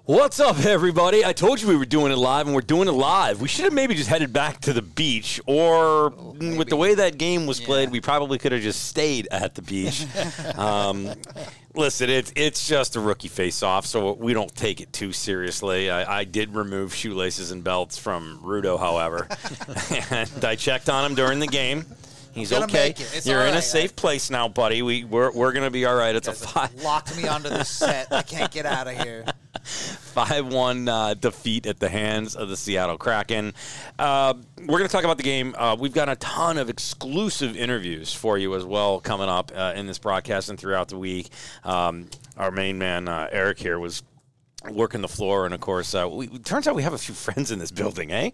What's up, everybody? I told you we were doing it live, and we're doing it live. We should have maybe just headed back to the beach, or with the way that game was played, we probably could have just stayed at the beach. Listen, it's just a rookie face-off, so we don't take it too seriously. I did remove shoelaces and belts from Rudo, however, and I checked on him during the game. He's okay. You're in a safe place now, buddy. We're going to be all right. It's a 5. Locked me onto this set. I can't get out of here. 5-1 defeat at the hands of the Seattle Kraken. We're going to talk about the game. We've got a ton of exclusive interviews for you as well coming up in this broadcast and throughout the week. Our main man, Eric, here was working the floor, and of course, turns out we have a few friends in this building, eh?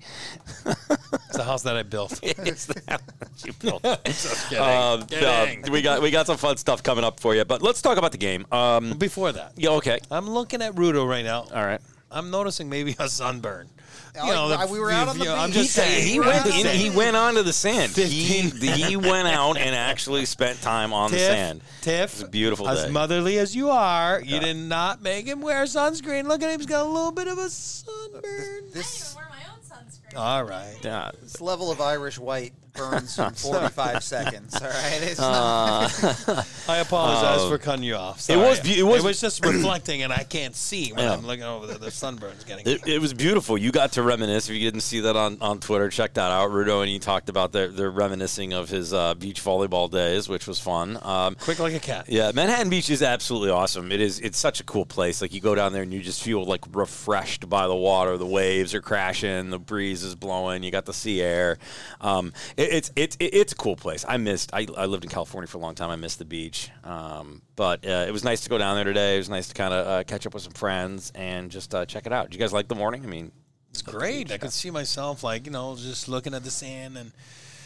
It's the house that I built. It's the house that you built. Just kidding. We got some fun stuff coming up for you, but let's talk about the game. Before that, Yeah, okay. I'm looking at Rudo right now. All right. I'm noticing maybe a sunburn. We were out on the I'm beach. just saying. He went onto the sand. He went out and actually spent time on the sand. Tiff, it was a beautiful as day. motherly as you are, you did not make him wear sunscreen. Look at him. He's got a little bit of a sunburn. I didn't even wear my own sunscreen. All right. Yeah. This level of Irish white burns in 45 seconds. All right, it's not. I apologize for cutting you off. Sorry. It was just reflecting, and I can't see when I'm looking over there. The sunburn's getting. It was beautiful. You got to reminisce. If you didn't see that on Twitter, check that out. Rudo and he talked about their reminiscing of his beach volleyball days, which was fun. Quick like a cat. Yeah, Manhattan Beach is absolutely awesome. It's such a cool place. Like, you go down there and you just feel like refreshed by the water. The waves are crashing, the breeze is blowing. You got the sea air. It's a cool place. I lived in California for a long time. I missed the beach. But it was nice to go down there today. It was nice to kind of catch up with some friends and just check it out. Did you guys like the morning? I mean, it's great. I could see myself, just looking at the sand and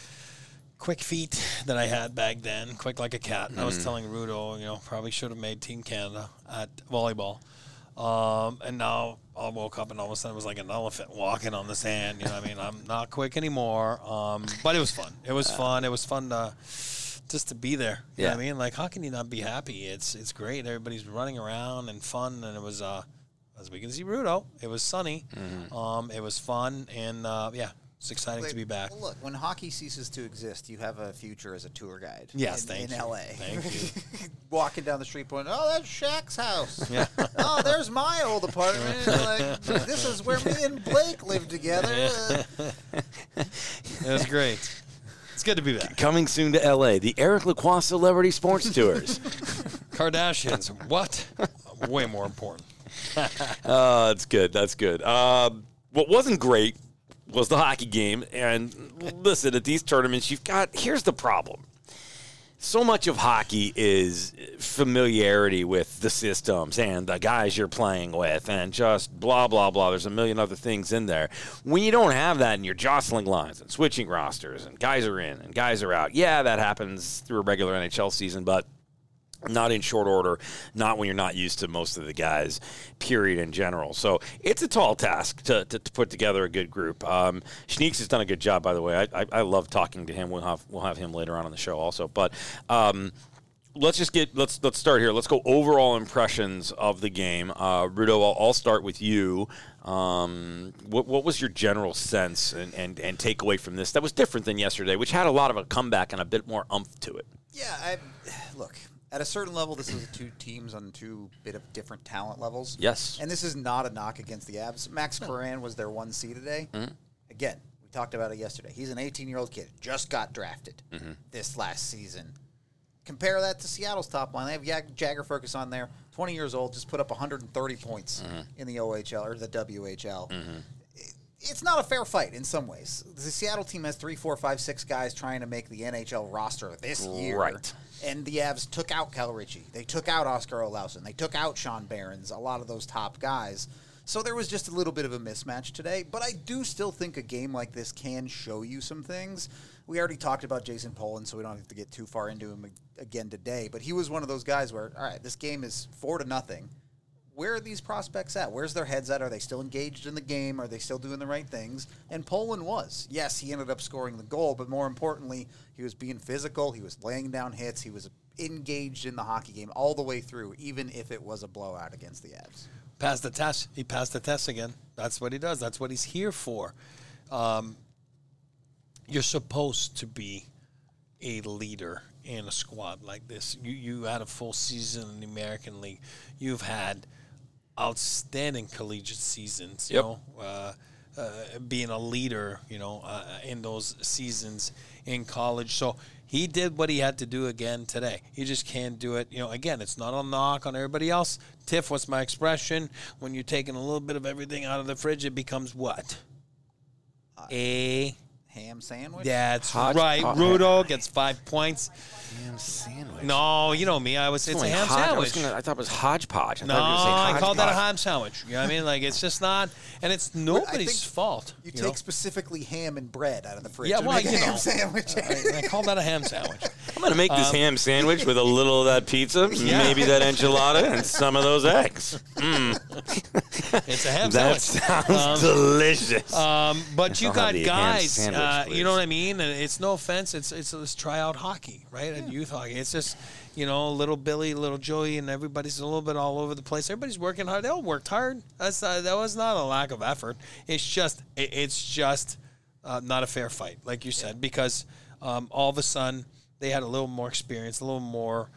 quick feet that I had back then, quick like a cat. And I was telling Rudo, probably should have made Team Canada at volleyball. And now I woke up and all of a sudden it was like an elephant walking on the sand. I'm not quick anymore. But it was fun. It was fun. It was fun to just to be there. You know what I mean? Like, how can you not be happy? It's great. Everybody's running around and fun. And it was, as we can see, Rudo, it was sunny. It was fun. And, it's exciting to be back. Well, look, when hockey ceases to exist, you have a future as a tour guide. Yes, in you. LA. Thank you. Walking down the street going, oh, that's Shaq's house. Yeah. Oh, there's my old apartment. Like, this is where me and Blake live together. It was great. It's good to be back. coming soon to L.A., the Eric Lacroix Celebrity Sports Tours. Kardashians, what? Way more important. That's good. That's good. What wasn't great was the hockey game. And listen, at these tournaments, here's the problem. So much of hockey is familiarity with the systems and the guys you're playing with and just blah, blah, blah. There's a million other things in there. When you don't have that and you're jostling lines and switching rosters and guys are in and guys are out, yeah, that happens through a regular NHL season, but not in short order, not when you're not used to most of the guys, period, in general. So it's a tall task to put together a good group. Schneeks has done a good job, by the way. I love talking to him. We'll have him later on in the show also. But let's start here. Let's go overall impressions of the game. Rudo, I'll start with you. What was your general sense and takeaway from this that was different than yesterday, which had a lot of a comeback and a bit more umph to it? Yeah, look. At a certain level, this is two teams on two bit of different talent levels. Yes. And this is not a knock against the Avs. Max Curran was their 1C today. Mm-hmm. Again, we talked about it yesterday. He's an 18-year-old kid, just got drafted this last season. Compare that to Seattle's top line. They have Jagger Ferguson on there, 20 years old, just put up 130 points in the OHL or the WHL. It's not a fair fight in some ways. The Seattle team has 3, 4, 5, 6 guys trying to make the NHL roster this year. Right. And the Avs took out Cal Ritchie. They took out Oscar Olausson. They took out Sean Behrens, a lot of those top guys. So there was just a little bit of a mismatch today. But I do still think a game like this can show you some things. We already talked about Jason Poland, so we don't have to get too far into him again today. But he was one of those guys where, all right, this game is 4-0. Where are these prospects at? Where's their heads at? Are they still engaged in the game? Are they still doing the right things? And Poland was. Yes, he ended up scoring the goal, but more importantly, he was being physical. He was laying down hits. He was engaged in the hockey game all the way through, even if it was a blowout against the Avs. Passed the test. He passed the test again. That's what he does. That's what he's here for. You're supposed to be a leader in a squad like this. You had a full season in the American League. You've had outstanding collegiate seasons. Yep. Being a leader, in those seasons in college. So he did what he had to do again today. He just can't do it. Again, it's not a knock on everybody else. Tiff, what's my expression? When you're taking a little bit of everything out of the fridge, it becomes what? A ham sandwich? That's right. Rudo gets 5 points. Ham sandwich. No, you know me. I would say it's a ham sandwich. I thought it was hodgepodge. I called that a ham sandwich. You know what I mean? Like, it's just not, and it's nobody's fault. You take specifically ham and bread out of the fridge. Yeah, well, make a ham sandwich. I call that a ham sandwich. I'm going to make this ham sandwich with a little of that pizza, maybe that enchilada, and some of those eggs. It's a ham that sandwich. Sounds delicious. But you got guys, you know what I mean? And it's no offense. It's let's try out hockey, right? And youth hockey. It's just, little Billy, little Joey, and everybody's a little bit all over the place. Everybody's working hard. They all worked hard. That was not a lack of effort. It's just not a fair fight, like you said, because all of a sudden they had a little more experience, a little more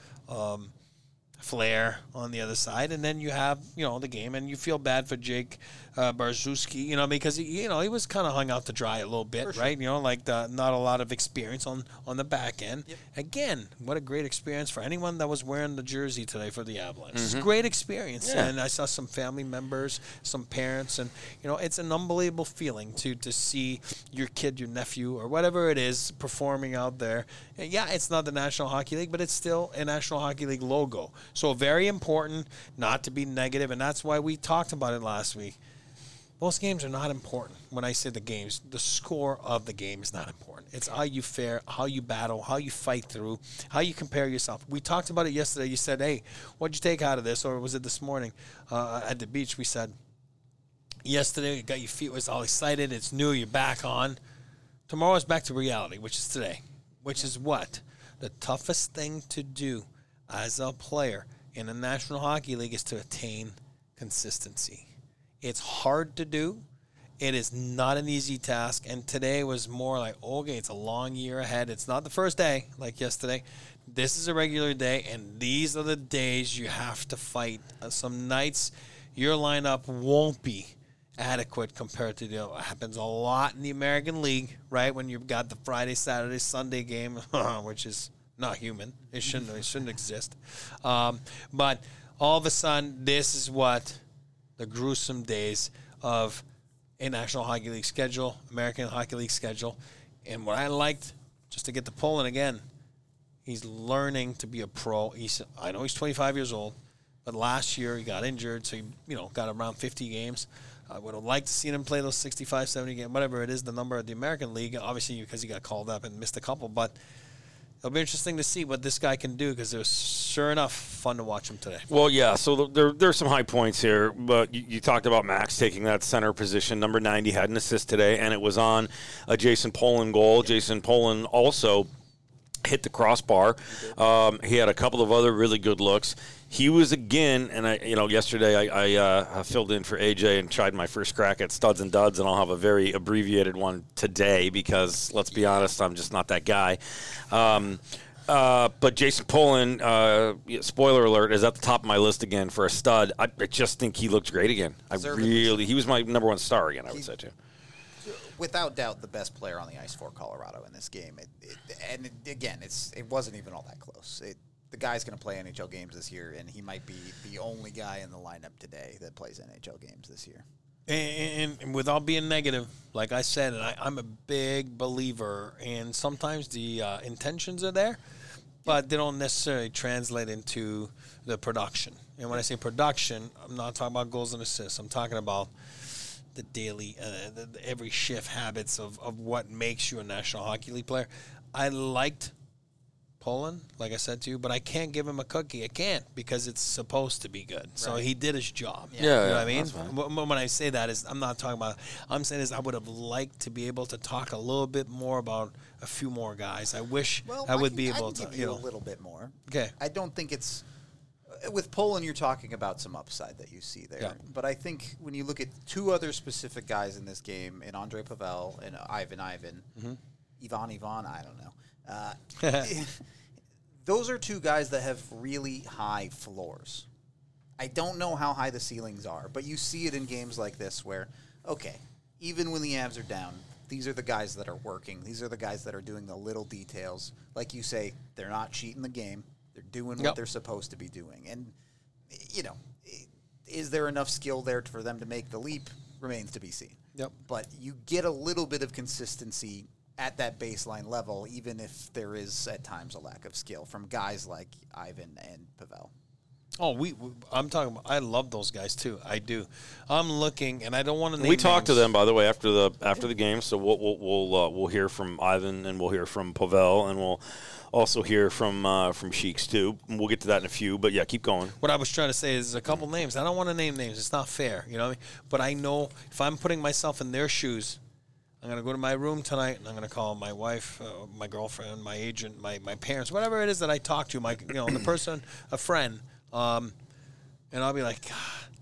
flair on the other side, and then you have the game, and you feel bad for Jake Barzewski, because he was kind of hung out to dry a little bit, right? Like not a lot of experience on the back end. Yep. Again, what a great experience for anyone that was wearing the jersey today for the Avalanche. It's a great experience, and I saw some family members, some parents, and it's an unbelievable feeling to see your kid, your nephew, or whatever it is performing out there. And yeah, it's not the National Hockey League, but it's still a National Hockey League logo. So very important not to be negative, and that's why we talked about it last week. Most games are not important. When I say the games, the score of the game is not important. It's how you fare, how you battle, how you fight through, how you compare yourself. We talked about it yesterday. You said, hey, what'd you take out of this? Or was it this morning at the beach? We said, yesterday you got your feet was all excited. It's new. You're back on. Tomorrow is back to reality, which is today, which is what? The toughest thing to do as a player in the National Hockey League is to attain consistency. It's hard to do. It is not an easy task. And today was more like, okay, it's a long year ahead. It's not the first day like yesterday. This is a regular day, and these are the days you have to fight. Some nights your lineup won't be adequate compared to it happens a lot in the American League, right? When you've got the Friday, Saturday, Sunday game, which is not human. It shouldn't exist. But all of a sudden, this is what the gruesome days of a National Hockey League schedule, American Hockey League schedule. And what I liked, just to get the Poland again, he's learning to be a pro. I know he's 25 years old, but last year he got injured, so he got around 50 games. I would have liked to see him play those 65, 70 games, whatever it is, the number of the American League, obviously because he got called up and missed a couple, but it'll be interesting to see what this guy can do because it was sure enough fun to watch him today. Well, yeah, so there's some high points here, but you talked about Max taking that center position. Number 90 had an assist today, and it was on a Jason Poland goal. Jason Poland also hit the crossbar. He had a couple of other really good looks. He was again, and yesterday I filled in for AJ and tried my first crack at studs and duds, and I'll have a very abbreviated one today because, let's be honest, I'm just not that guy. But Jason Poland, spoiler alert, is at the top of my list again for a stud. I just think he looked great again. He was my number one star again, I would say, too. Without doubt, the best player on the ice for Colorado in this game. It wasn't even all that close. The guy's going to play NHL games this year, and he might be the only guy in the lineup today that plays NHL games this year. And without being negative, like I said, and I'm a big believer, and sometimes the intentions are there, but they don't necessarily translate into the production. And when I say production, I'm not talking about goals and assists. I'm talking about the daily, every shift habits of what makes you a National Hockey League player. I liked Poland, like I said to you, but I can't give him a cookie. I can't because it's supposed to be good. So he did his job. Yeah, you know what I that's mean? fine. When I say that is, I'm not talking about. I'm saying is I would have liked to be able to talk a little bit more about a few more guys. I wish I would be able to. Give you a little bit more. Okay. I don't think it's with Poland. You're talking about some upside that you see there. Yeah. But I think when you look at two other specific guys in this game, in Andre Pavel and Ivan, Ivan, I don't know. Those are two guys that have really high floors. I don't know how high the ceilings are, but you see it in games like this where, okay, even when the Avs are down, these are the guys that are working. These are the guys that are doing the little details. Like you say, they're not cheating the game. They're doing what they're supposed to be doing. And, you know, is there enough skill there for them to make the leap? Remains to be seen. Yep. But you get a little bit of consistency at that baseline level, even if there is at times a lack of skill from guys like Ivan and Pavel. Oh, I'm talking about. I love those guys too. I do. I'm looking, and I don't want to. We talked to them, by the way, after the game. So we'll hear from Ivan, and we'll hear from Pavel, and we'll also hear from Sheiks too. We'll get to that in a few. But yeah, keep going. What I was trying to say is a couple names. I don't want to name names. It's not fair. You know what I mean? But I know if I'm putting myself in their shoes, I'm going to go to my room tonight, and I'm going to call my wife, my girlfriend, my agent, my parents, whatever it is that I talk to, the person, a friend, and I'll be like,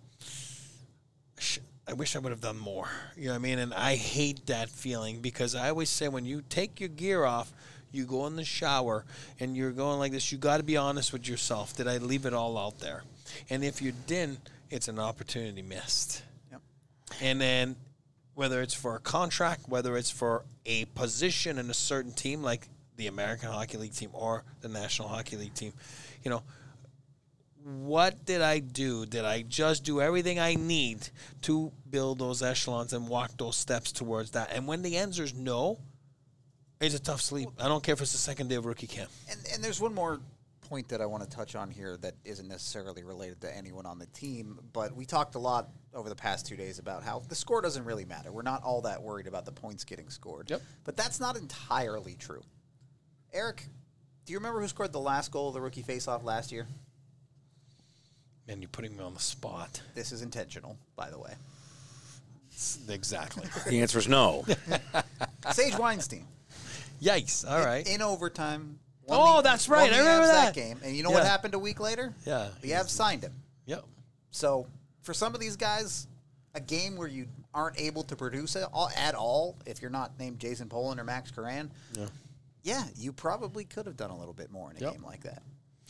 I wish I would have done more. You know what I mean? And I hate that feeling because I always say when you take your gear off, you go in the shower, and you're going like this, you got to be honest with yourself. Did I leave it all out there? And if you didn't, it's an opportunity missed. Yep. And then whether it's for a contract, whether it's for a position in a certain team like the American Hockey League team or the National Hockey League team, you know, what did I do? Did I just do everything I need to build those echelons and walk those steps towards that? And when the answer is no, it's a tough sleep. I don't care if it's the second day of rookie camp. And there's one more point that I want to touch on here that isn't necessarily related to anyone on the team, but we talked a lot over the past 2 days about how the score doesn't really matter. We're not all that worried about the points getting scored. Yep. But that's not entirely true. Eric, do you remember who scored the last goal of the rookie faceoff last year? Man, you're putting me on the spot. This is intentional, by the way. Exactly. The answer is no. Sage Weinstein. Yikes. All right. In overtime. That's right. won I remember Avs that game. And you know what happened a week later? Yeah. The Avs signed him. Yep. So for some of these guys, a game where you aren't able to produce it at all, if you're not named Jason Poland or Max Curran, you probably could have done a little bit more in a game like that.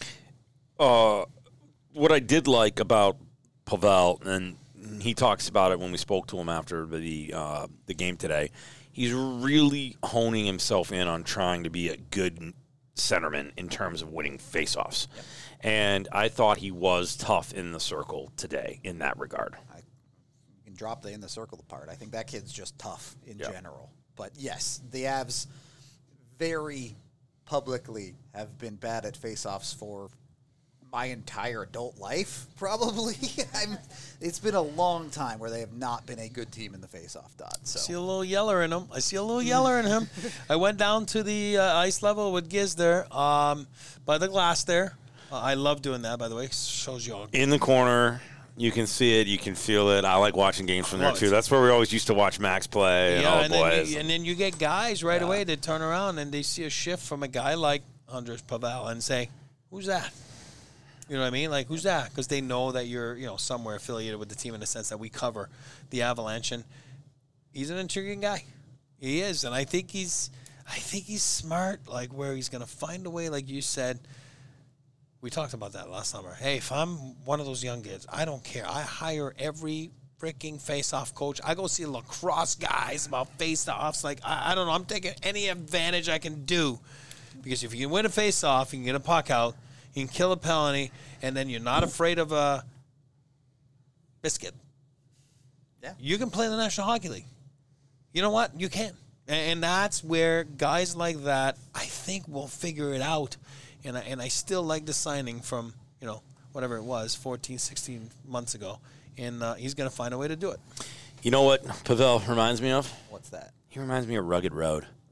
What I did like about Pavel, and he talks about it when we spoke to him after the game today, he's really honing himself in on trying to be a good centerman in terms of winning faceoffs. Yep. And I thought he was tough in the circle today in that regard. You can drop the in the circle part. I think that kid's just tough in general. But yes, the Avs very publicly have been bad at faceoffs for my entire adult life, probably. It's been a long time where they have not been a good team in the faceoff dot. So. I see a little yeller in him. I went down to the ice level with Giz there by the glass there. I love doing that, by the way. Shows you all. In the corner, you can see it, you can feel it. I like watching games from there, too. That's where we always used to watch Max play and all the boys. And then you get guys right away that turn around and they see a shift from a guy like Andres Pavel and say, who's that? You know what I mean? Like, who's that? Because they know that you're, somewhere affiliated with the team in the sense that we cover the Avalanche. And he's an intriguing guy. He is. And I think he's smart, like, where he's going to find a way, like you said. We talked about that last summer. Hey, if I'm one of those young kids, I don't care. I hire every freaking face-off coach. I go see lacrosse guys about face-offs. Like, I don't know. I'm taking any advantage I can do. Because if you can win a face-off, you can get a puck out, you can kill a penalty, and then you're not afraid of a biscuit. Yeah. You can play in the National Hockey League. You know what? You can. And that's where guys like that, I think, will figure it out. And I still like the signing from, whatever it was, 14, 16 months ago. And he's going to find a way to do it. You know what Pavel reminds me of? What's that? He reminds me of Rugged Road.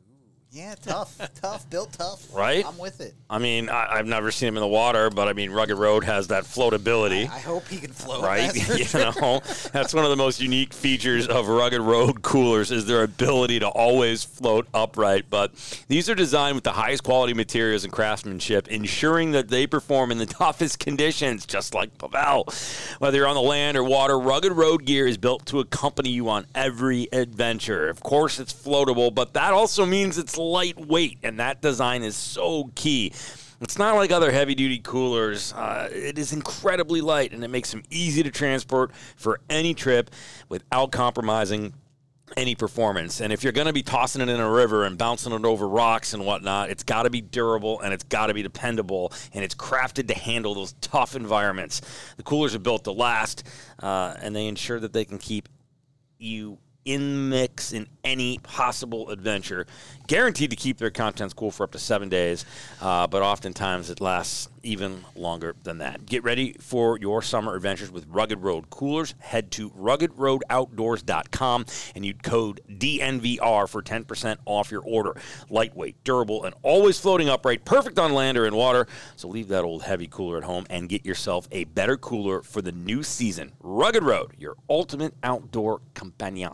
Yeah, tough, built tough. Right? I'm with it. I mean, I've never seen him in the water, but I mean, Rugged Road has that floatability. I hope he can float. Right? That's for sure. That's one of the most unique features of Rugged Road coolers is their ability to always float upright. But these are designed with the highest quality materials and craftsmanship, ensuring that they perform in the toughest conditions, just like Pavel. Whether you're on the land or water, Rugged Road gear is built to accompany you on every adventure. Of course, it's floatable, but that also means it's lightweight, and that design is so key. It's not like other heavy-duty coolers. It is incredibly light, and it makes them easy to transport for any trip without compromising any performance. And if you're going to be tossing it in a river and bouncing it over rocks and whatnot, it's got to be durable and it's got to be dependable, and it's crafted to handle those tough environments. The coolers are built to last, and they ensure that they can keep you in the mix in any possible adventure. Guaranteed to keep their contents cool for up to 7 days, but oftentimes it lasts even longer than that. Get ready for your summer adventures with Rugged Road coolers. Head to ruggedroadoutdoors.com and use code DNVR for 10% off your order. Lightweight, durable, and always floating upright, perfect on land or in water. So leave that old heavy cooler at home and get yourself a better cooler for the new season. Rugged Road, your ultimate outdoor companion.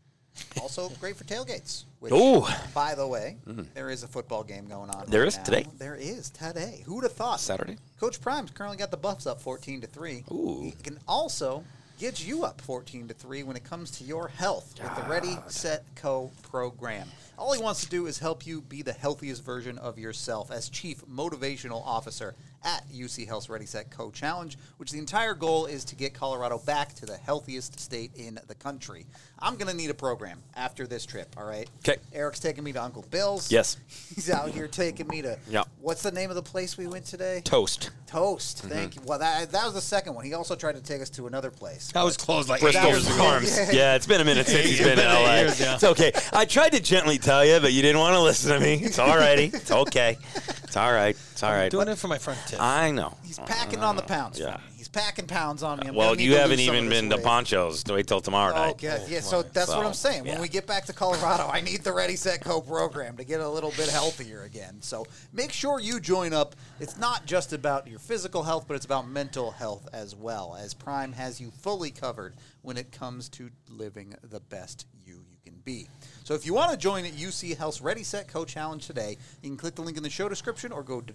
Also great for tailgates. Which, Ooh. by the way, there is a football game going on. There right is now. today? There is today. Who would have thought? Saturday? Coach Prime's currently got the Buffs up 14-3. Ooh. He can also get you up 14-3 when it comes to your health with the Ready, Set, Co program. All he wants to do is help you be the healthiest version of yourself as Chief Motivational Officer at UC Health's Ready, Set, Co Challenge, which the entire goal is to get Colorado back to the healthiest state in the country. I'm going to need a program after this trip, all right? Okay. Eric's taking me to Uncle Bill's. Yes. He's out here taking me to, Yeah. what's the name of the place we went today? Toast. Toast. Thank you. Well, that was the second one. He also tried to take us to another place. That was closed like Bristol 8 years ago. Farms. Yeah. Yeah, it's been a minute since he's been in LA. Years, yeah. It's okay. I tried to gently tell you, but you didn't want to listen to me. It's all righty. It's okay. It's all right. It's all right. Doing it for my friend Tiff. I know. He's packing on the pounds Yeah. for me. He's packing pounds on me. I'm Well, gonna need you to haven't lose some even of this been to weight. Ponchos. Wait till tomorrow night. Okay, yeah, so that's what I'm saying. When yeah. we get back to Colorado, I need the Ready, Set, Co program to get a little bit healthier again. So make sure you join up. It's not just about your physical health, but it's about mental health as well, as Prime has you fully covered when it comes to living the best you can be. So if you want to join UC Health's Ready, Set, Co Challenge today, you can click the link in the show description or go to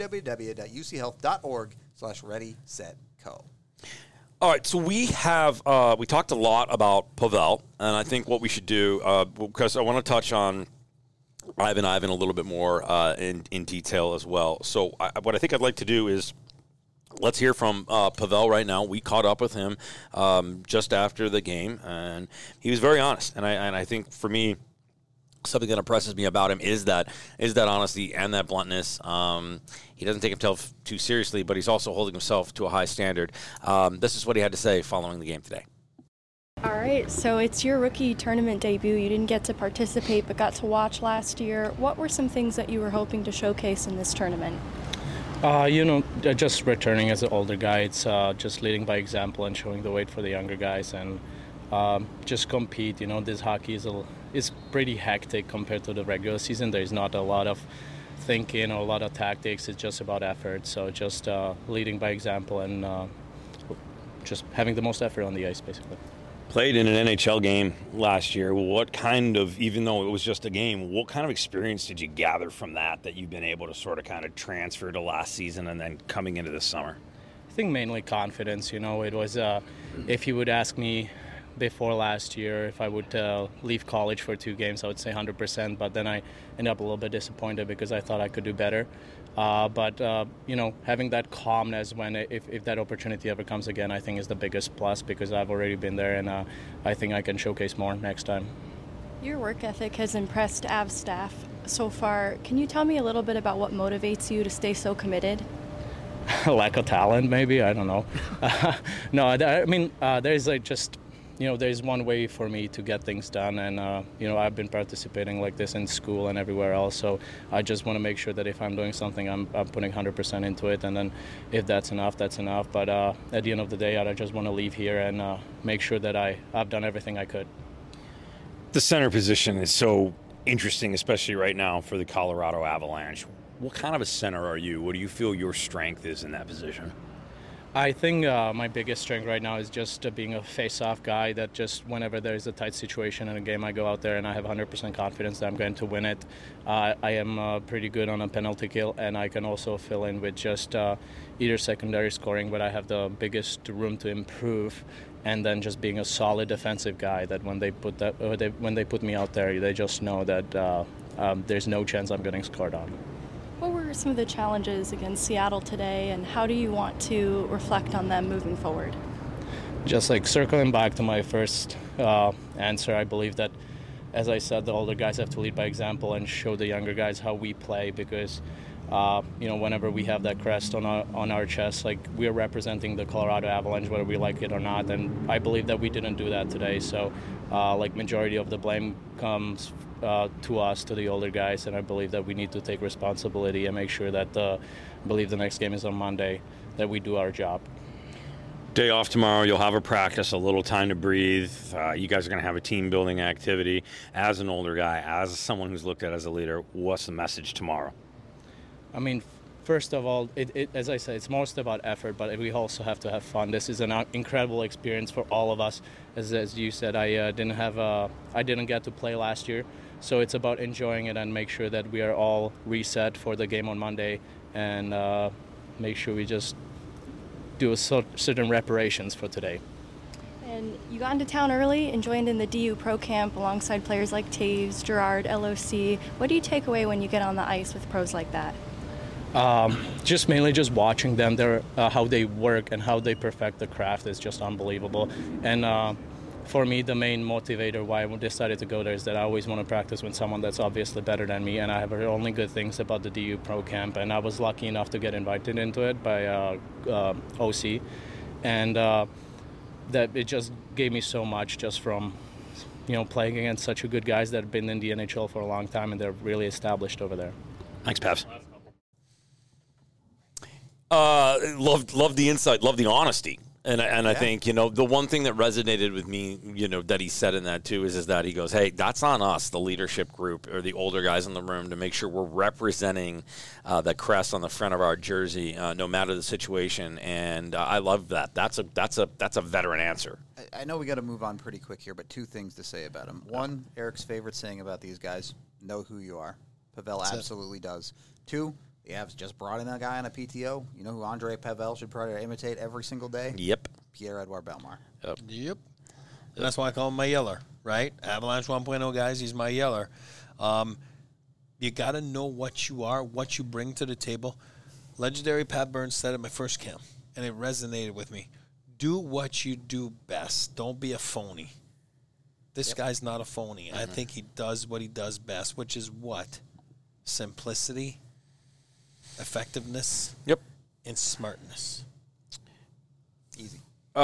www.uchealth.org/ready-set-co. All right, so we talked a lot about Pavel, and I think what we should do, because I want to touch on Ivan a little bit more in detail as well. So what I think I'd like to do is let's hear from Pavel right now. We caught up with him just after the game, and he was very honest. And I think for me, something that impresses me about him is that honesty and that bluntness. He doesn't take himself too seriously, but he's also holding himself to a high standard. This is what he had to say following the game today. All right, so it's your rookie tournament debut. You didn't get to participate, but got to watch last year. What were some things that you were hoping to showcase in this tournament? Just returning as an older guy. It's just leading by example and showing the way for the younger guys, and just compete. This hockey is pretty hectic compared to the regular season. There's not a lot of thinking or a lot of tactics. It's just about effort. So just leading by example and just having the most effort on the ice, basically. Played in an NHL game last year. What kind of, even though it was just a game, what kind of experience did you gather from that you've been able to sort of kind of transfer to last season and then coming into this summer? I think mainly confidence. It was, if you would ask me before last year if I would leave college for 2 games, I would say 100%, but then I ended up a little bit disappointed because I thought I could do better. But having that calmness when if that opportunity ever comes again, I think is the biggest plus, because I've already been there, and I think I can showcase more next time. Your work ethic has impressed Avs staff so far. Can you tell me a little bit about what motivates you to stay so committed? Lack of talent, maybe. I don't know. No, I mean, there's there's one way for me to get things done, and I've been participating like this in school and everywhere else, so I just want to make sure that if I'm doing something, I'm putting 100% into it, and then if that's enough, that's enough. But at the end of the day, I just want to leave here and make sure that I've done everything I could. The center position is so interesting, especially right now for the Colorado Avalanche. What kind of a center are you? What do you feel your strength is in that position? I think my biggest strength right now is just being a face-off guy that just whenever there's a tight situation in a game, I go out there and I have 100% confidence that I'm going to win it. I am pretty good on a penalty kill, and I can also fill in with just either secondary scoring, but I have the biggest room to improve. And then just being a solid defensive guy that when they put me out there, they just know that there's no chance I'm getting scored on. What were some of the challenges against Seattle today, and how do you want to reflect on them moving forward? Just like circling back to my first answer, I believe that, as I said, the older guys have to lead by example and show the younger guys how we play, because whenever we have that crest on our chest, like, we're representing the Colorado Avalanche, whether we like it or not, and I believe that we didn't do that today. So, majority of the blame comes to us, to the older guys, and I believe that we need to take responsibility and make sure that, I believe the next game is on Monday, that we do our job. Day off tomorrow, you'll have a practice, a little time to breathe. You guys are going to have a team-building activity. As an older guy, as someone who's looked at as a leader, what's the message tomorrow? I mean, first of all, as I said, it's most about effort, but we also have to have fun. This is an incredible experience for all of us. As you said, I didn't get to play last year, so it's about enjoying it and make sure that we are all reset for the game on Monday, and make sure we just do certain reparations for today. And you got into town early and joined in the DU Pro Camp alongside players like Taves, Gerard, LOC. What do you take away when you get on the ice with pros like that? Just mainly just watching them, how they work and how they perfect the craft is just unbelievable. And for me, the main motivator why I decided to go there is that I always want to practice with someone that's obviously better than me, and I have heard only good things about the DU Pro Camp, and I was lucky enough to get invited into it by OC, and that it just gave me so much just from playing against such good guys that have been in the NHL for a long time, and they're really established over there. Thanks, Pavs. Love the insight, love the honesty. And I think, the one thing that resonated with me, that he said in that too is that he goes, hey, that's on us, the leadership group or the older guys in the room, to make sure we're representing the crest on the front of our jersey, no matter the situation. And I love that. That's a veteran answer. I know we got to move on pretty quick here, but two things to say about him. One, Eric's favorite saying about these guys: know who you are. Pavel absolutely does. Two, the Avs just brought in a guy on a PTO. You know who Andre Pavel should probably imitate every single day? Yep. Pierre-Edouard Bellemare. Yep. And that's why I call him my yeller, right? Avalanche 1.0 guys, he's my yeller. You got to know what you are, what you bring to the table. Legendary Pat Burns said at my first camp, and it resonated with me. Do what you do best. Don't be a phony. This guy's not a phony. I think he does what he does best, which is what? Simplicity, effectiveness, and smartness. Easy.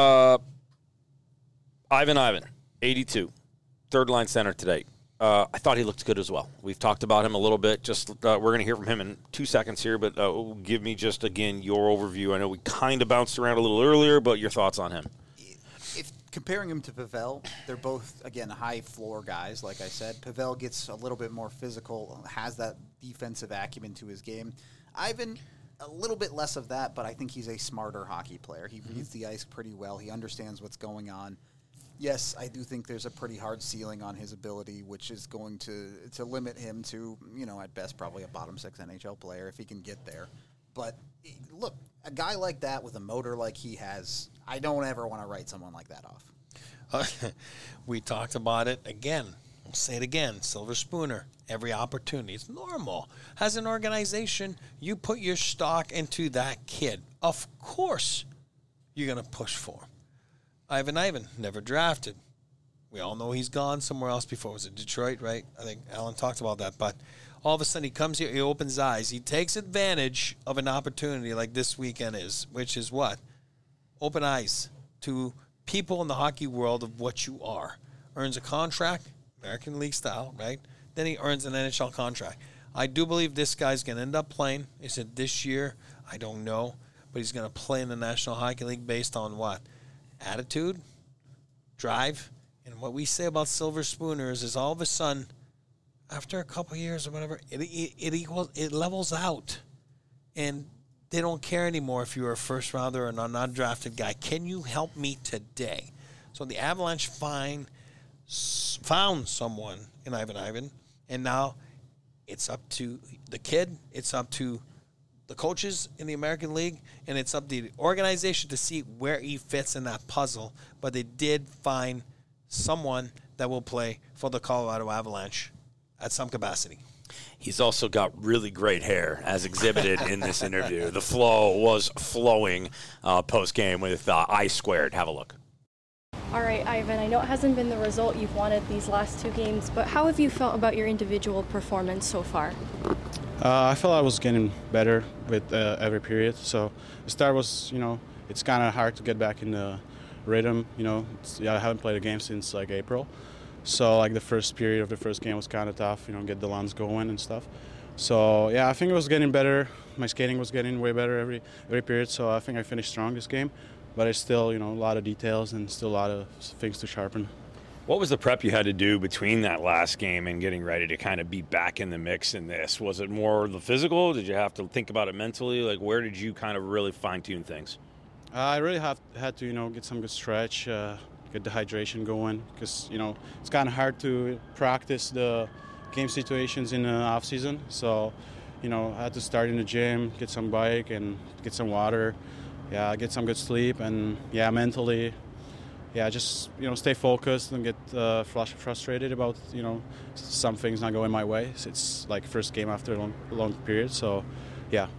Ivan, 82, third line center today. I thought he looked good as well. We've talked about him a little bit. Just we're going to hear from him in 2 seconds here, but give me just, again, your overview. I know we kind of bounced around a little earlier, but your thoughts on him. If comparing him to Pavel, they're both, again, high floor guys, like I said. Pavel gets a little bit more physical, has that defensive acumen to his game. Ivan, a little bit less of that, but I think he's a smarter hockey player. He reads the ice pretty well. He understands what's going on. Yes, I do think there's a pretty hard ceiling on his ability, which is going to limit him to, at best, probably a bottom six NHL player if he can get there. But, look, a guy like that with a motor like he has, I don't ever want to write someone like that off. We talked about it again. I'll say it again. Silver Spooner, every opportunity. It's normal. As an organization, you put your stock into that kid. Of course, you're going to push for him. Ivan, never drafted. We all know he's gone somewhere else before. Was it Detroit, right? I think Alan talked about that. But all of a sudden he comes here, he opens his eyes. He takes advantage of an opportunity like this weekend is, which is what? Open eyes to people in the hockey world of what you are. Earns a contract, American League style, right? Then he earns an NHL contract. I do believe this guy's going to end up playing. Is it this year? I don't know. But he's going to play in the National Hockey League based on what? Attitude, drive, and what we say about Silver Spooners is all of a sudden after a couple of years or whatever, it levels out, and they don't care anymore if you're a first rounder or an undrafted guy. Can you help me today? So the Avalanche found someone in Ivan, and now it's up to the kid, it's up to the coaches in the American League, and it's up to the organization to see where he fits in that puzzle. But they did find someone that will play for the Colorado Avalanche at some capacity. He's also got really great hair, as exhibited in this interview. The flow was flowing post-game with I Squared. Have a look. All right, Ivan, I know it hasn't been the result you've wanted these last 2 games, but how have you felt about your individual performance so far? I felt I was getting better with every period. So the start was, it's kind of hard to get back in the rhythm. I haven't played a game since like April. So like the first period of the first game was kind of tough, get the lungs going and stuff. So yeah, I think it was getting better. My skating was getting way better every period. So I think I finished strong this game. But it's still, a lot of details and still a lot of things to sharpen. What was the prep you had to do between that last game and getting ready to kind of be back in the mix in this? Was it more the physical? Did you have to think about it mentally? Like, where did you kind of really fine-tune things? I really had to, get some good stretch, get the hydration going, because, it's kind of hard to practice the game situations in the off-season. So, I had to start in the gym, get some bike and get some water. Yeah, get some good sleep, and mentally, just stay focused and get frustrated about some things not going my way. It's like first game after a long period, so yeah.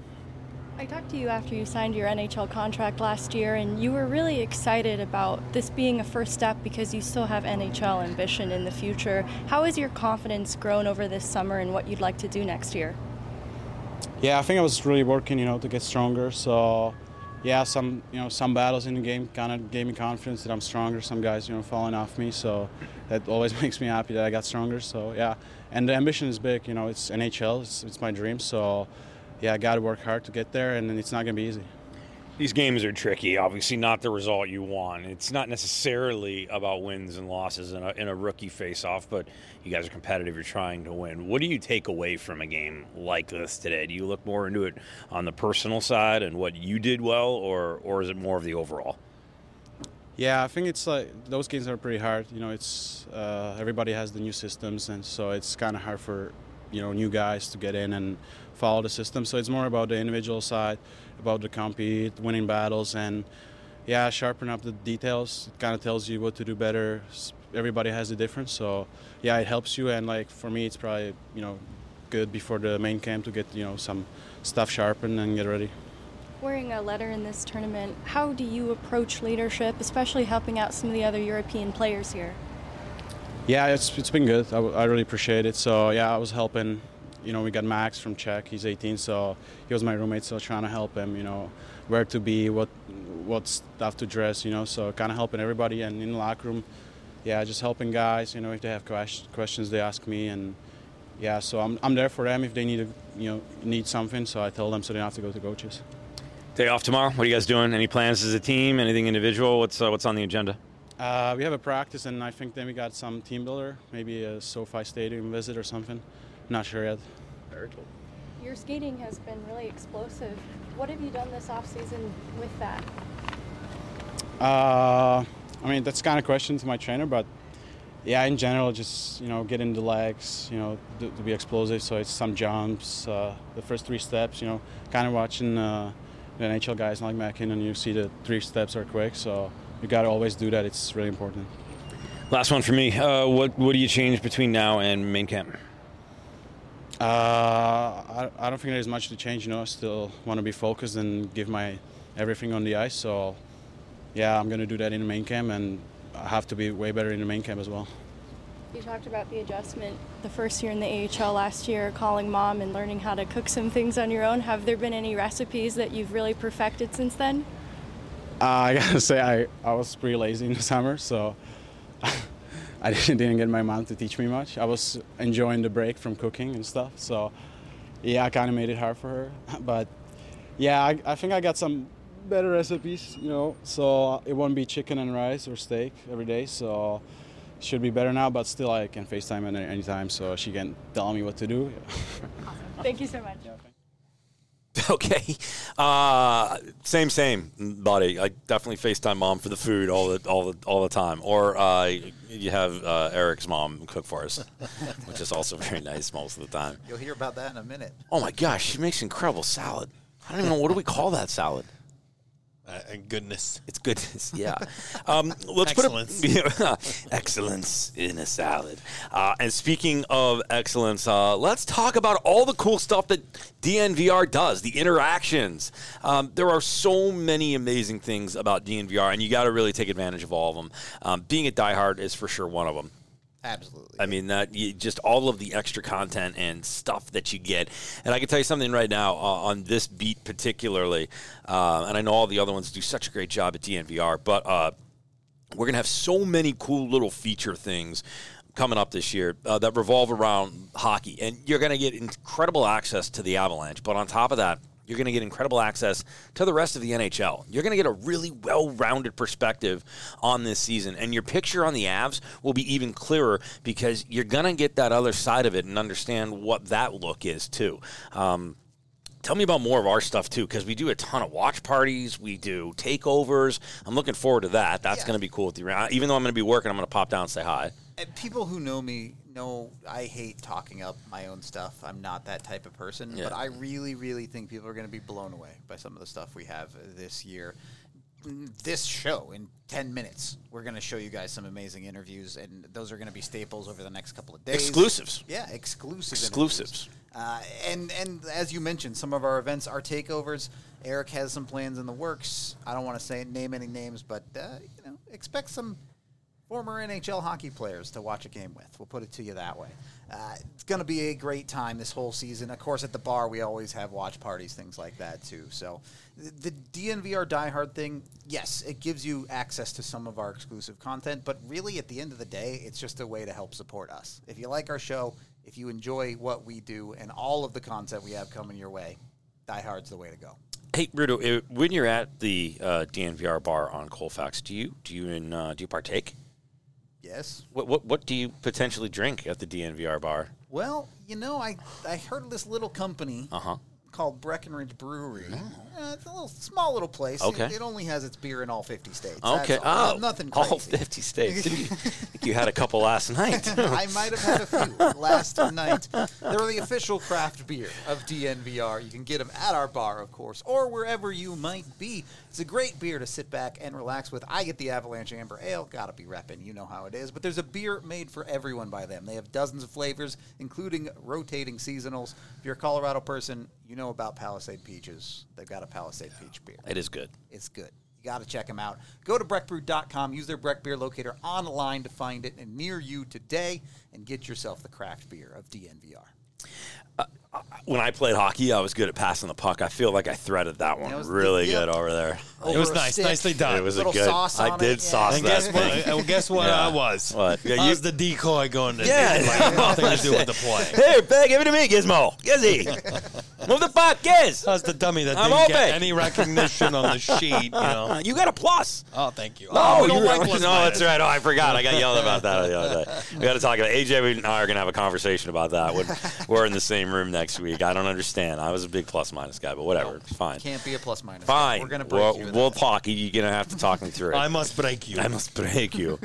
I talked to you after you signed your NHL contract last year, and you were really excited about this being a first step because you still have NHL ambition in the future. How has your confidence grown over this summer and what you'd like to do next year? Yeah, I think I was really working, to get stronger. So. Yeah, some battles in the game kind of gave me confidence that I'm stronger. Some guys, falling off me, so that always makes me happy that I got stronger. So yeah, and the ambition is big. It's NHL. It's my dream. So yeah, I got to work hard to get there, and it's not gonna be easy. These games are tricky. Obviously, not the result you want. It's not necessarily about wins and losses in a rookie face-off, but you guys are competitive. You're trying to win. What do you take away from a game like this today? Do you look more into it on the personal side and what you did well, or is it more of the overall? Yeah, I think it's like those games are pretty hard. It's everybody has the new systems, and so it's kind of hard for new guys to get in and follow the system. So it's more about the individual side, about the compete, winning battles, and sharpen up the details. It kind of tells you what to do better. Everybody has a difference, so it helps you. And like for me, it's probably good before the main camp to get some stuff sharpened and get ready. Wearing a letter in this tournament, how do you approach leadership, especially helping out some of the other European players here? Yeah, it's been good. I really appreciate it. So I was helping. We got Max from Czech. He's 18, so he was my roommate. So trying to help him, where to be, what stuff to dress, So kind of helping everybody, and in the locker room, just helping guys. If they have questions, they ask me, and so I'm there for them if they need something. So I tell them so they don't have to go to coaches. Day off tomorrow. What are you guys doing? Any plans as a team? Anything individual? What's on the agenda? We have a practice, and I think then we got some team builder, maybe a SoFi Stadium visit or something. Not sure yet. Very cool. Your skating has been really explosive. What have you done this offseason with that? That's kind of question to my trainer, but in general, just getting the legs, to be explosive. So it's some jumps, the first 3 steps. Kind of watching the NHL guys like McKinnon, you see the 3 steps are quick. So you got to always do that. It's really important. Last one for me. What do you change between now and main camp? I don't think there's much to change. I still want to be focused and give my everything on the ice. So, I'm going to do that in the main camp, and I have to be way better in the main camp as well. You talked about the adjustment the first year in the AHL last year, calling mom and learning how to cook some things on your own. Have there been any recipes that you've really perfected since then? I got to say I was pretty lazy in the summer, so I didn't get my mom to teach me much. I was enjoying the break from cooking and stuff, so I kind of made it hard for her. But I think I got some better recipes, so it won't be chicken and rice or steak every day. So should be better now, but still I can FaceTime at any time, so she can tell me what to do. Thank you so much. Okay. Same, buddy. I definitely FaceTime mom for the food all the time. Or you have Eric's mom cook for us, which is also very nice most of the time. You'll hear about that in a minute. Oh my gosh, she makes incredible salad. I don't even know, what do we call that salad? Goodness. It's goodness, yeah. Let's Excellence. put excellence in a salad. And speaking of excellence, let's talk about all the cool stuff that DNVR does, the interactions. There are so many amazing things about DNVR, and you got to really take advantage of all of them. Being a diehard is for sure one of them. Absolutely. I mean, just all of the extra content and stuff that you get. And I can tell you something right now on this beat particularly, and I know all the other ones do such a great job at DNVR, but we're going to have so many cool little feature things coming up this year that revolve around hockey. And you're going to get incredible access to the Avalanche. But on top of that, you're going to get incredible access to the rest of the NHL. You're going to get a really well-rounded perspective on this season. And your picture on the Avs will be even clearer because you're going to get that other side of it and understand what that look is, too. Tell me about more of our stuff, too, because we do a ton of watch parties. We do takeovers. I'm looking forward to that. That's going to be cool with you. Even though I'm going to be working, I'm going to pop down and say hi. And people who know me know I hate talking up my own stuff. I'm not that type of person. Yeah. But I really, really think people are going to be blown away by some of the stuff we have this year. This show, in 10 minutes, we're going to show you guys some amazing interviews, and those are going to be staples over the next couple of days. Exclusives. Yeah, exclusives. Exclusives. And as you mentioned, some of our events are takeovers. Eric has some plans in the works. I don't want to name any names, but expect some former NHL hockey players to watch a game with. We'll put it to you that way. It's going to be a great time this whole season. Of course, at the bar, we always have watch parties, things like that, too. So the DNVR diehard thing, yes, it gives you access to some of our exclusive content, but really, at the end of the day, it's just a way to help support us. If you like our show, if you enjoy what we do and all of the content we have coming your way, diehard's the way to go. Hey, Rudo, when you're at the DNVR bar on Colfax, do you partake? Yes. What do you potentially drink at the DNVR bar? Well, I heard of this little company called Breckenridge Brewery. It's a small little place. Okay. It only has its beer in all 50 states. Okay. That's all. Nothing crazy. All 50 states. I think you had a couple last night. I might have had a few last night. They're the official craft beer of DNVR. You can get them at our bar, of course, or wherever you might be. It's a great beer to sit back and relax with. I get the Avalanche Amber Ale. Gotta be repping. You know how it is. But there's a beer made for everyone by them. They have dozens of flavors, including rotating seasonals. If you're a Colorado person, you know about Palisade Peaches. They've got a Palisade Peach beer. It is good. It's good. You got to check them out. Go to breckbrew.com. Use their Breck Beer Locator online to find it near you today and get yourself the craft beer of DNVR. When I played hockey, I was good at passing the puck. I feel like I threaded that one really good over there. It was nice. Nicely done. It was Little a good. sauce on I did it, sauce And that. guess what I was? What? Yeah, I was the decoy going to nothing to do with the play. Here, give it to me, Gizmo. Gizzy. Move the puck, Giz. I was the dummy that I'm didn't get open. any recognition on the sheet. You got a plus. Oh, thank you. No, we don't like no, plus that's minus. right. Oh, I forgot. I got yelled about that the other day. We got to talk about AJ and I are going to have a conversation about that when we're in the same room next week. I don't understand. I was a big plus minus guy, but whatever. It's fine. Can't be a plus minus. Fine. We're going to break you. We'll talk. You're going to have to talk me through it. I must break you. I must break you.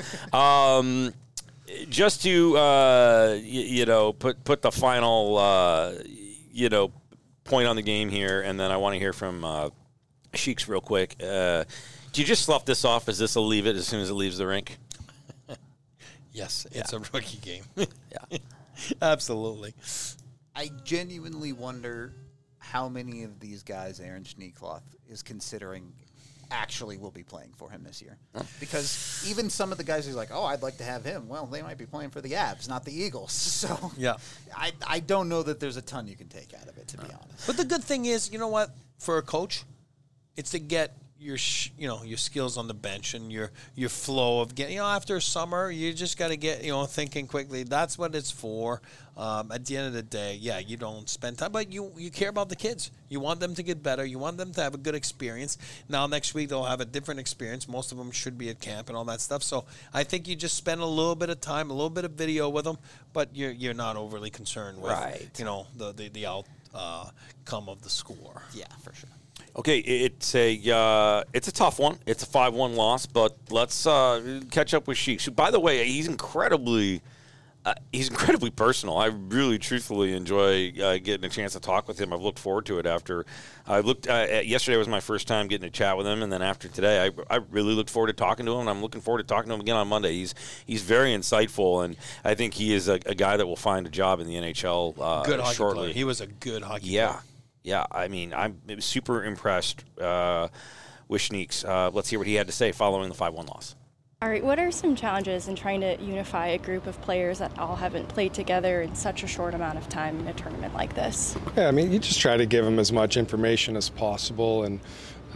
Just to put the final point on the game here, and then I want to hear from Sheiks real quick. Do you just slough this off? Is this a leave it as soon as it leaves the rink? Yes, it's a rookie game. Yeah. Absolutely. I genuinely wonder how many of these guys Aaron Schneekloth is considering actually will be playing for him this year. Because even some of the guys who's like, oh, I'd like to have him, well, they might be playing for the Avs, not the Eagles. So Yeah. I don't know that there's a ton you can take out of it, to be honest. But the good thing is, you know what? For a coach, it's to get your skills on the bench and your flow of getting, after summer, you just got to get, thinking quickly. That's what it's for. At the end of the day, you don't spend time, but you care about the kids. You want them to get better. You want them to have a good experience. Now, next week, they'll have a different experience. Most of them should be at camp and all that stuff. So I think you just spend a little bit of time, a little bit of video with them, but you're not overly concerned with, the outcome of the score. Yeah, for sure. Okay, it's a tough one. It's a 5-1 loss, but let's catch up with Sheeks. By the way, he's incredibly personal. I really, truthfully enjoy getting a chance to talk with him. I've looked forward to it after I looked. Yesterday was my first time getting to chat with him, and then after today, I really looked forward to talking to him. And I'm looking forward to talking to him again on Monday. He's very insightful, and I think he is a guy that will find a job in the NHL good hockey shortly. Player. He was a good hockey player. Yeah, I mean, I'm super impressed with Schneeks. Let's hear what he had to say following the 5-1 loss. All right, what are some challenges in trying to unify a group of players that all haven't played together in such a short amount of time in a tournament like this? Yeah, I mean, you just try to give them as much information as possible, and,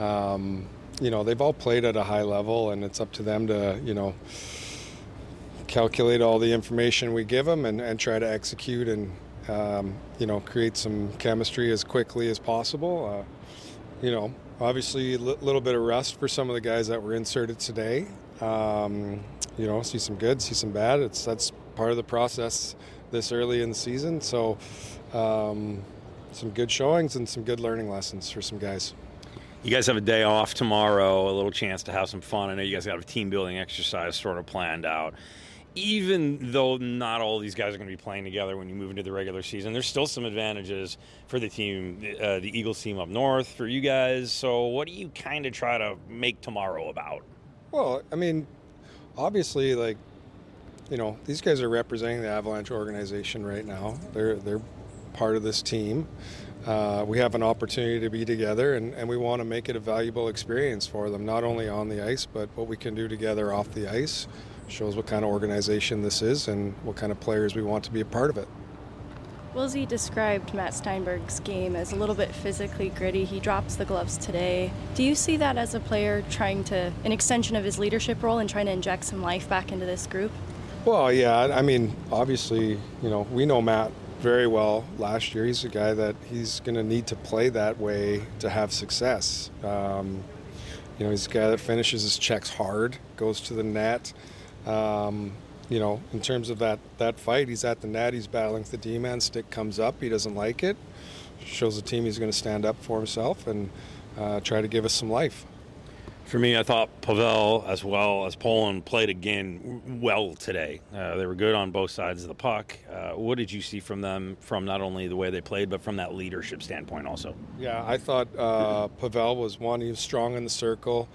they've all played at a high level, and it's up to them to, calculate all the information we give them and try to execute and, create some chemistry as quickly as possible. Obviously a little bit of rest for some of the guys that were inserted today. See some good, see some bad. That's part of the process this early in the season. So some good showings and some good learning lessons for some guys. You guys have a day off tomorrow, a little chance to have some fun. I know you guys got a team-building exercise sort of planned out. Even though not all these guys are going to be playing together when you move into the regular season, there's still some advantages for the team, the Eagles team up north, for you guys. So what do you kind of try to make tomorrow about? Well, I mean, obviously, these guys are representing the Avalanche organization right now. They're part of this team. We have an opportunity to be together, and we want to make it a valuable experience for them, not only on the ice, but what we can do together off the ice. Shows what kind of organization this is and what kind of players we want to be a part of it. Wilsey described Matt Steinberg's game as a little bit physically gritty. He drops the gloves today. Do you see that as a player an extension of his leadership role and trying to inject some life back into this group? Well, yeah, I mean, obviously, we know Matt very well last year. He's a guy that he's going to need to play that way to have success. He's a guy that finishes his checks hard, goes to the net. In terms of that fight, he's at the net, he's battling with the D-man, stick comes up, he doesn't like it. Shows the team he's going to stand up for himself and try to give us some life. For me, I thought Pavel as well as Poland played again well today. They were good on both sides of the puck. What did you see from them, from not only the way they played, but from that leadership standpoint also? Yeah, I thought Pavel was one. He was strong in the circle,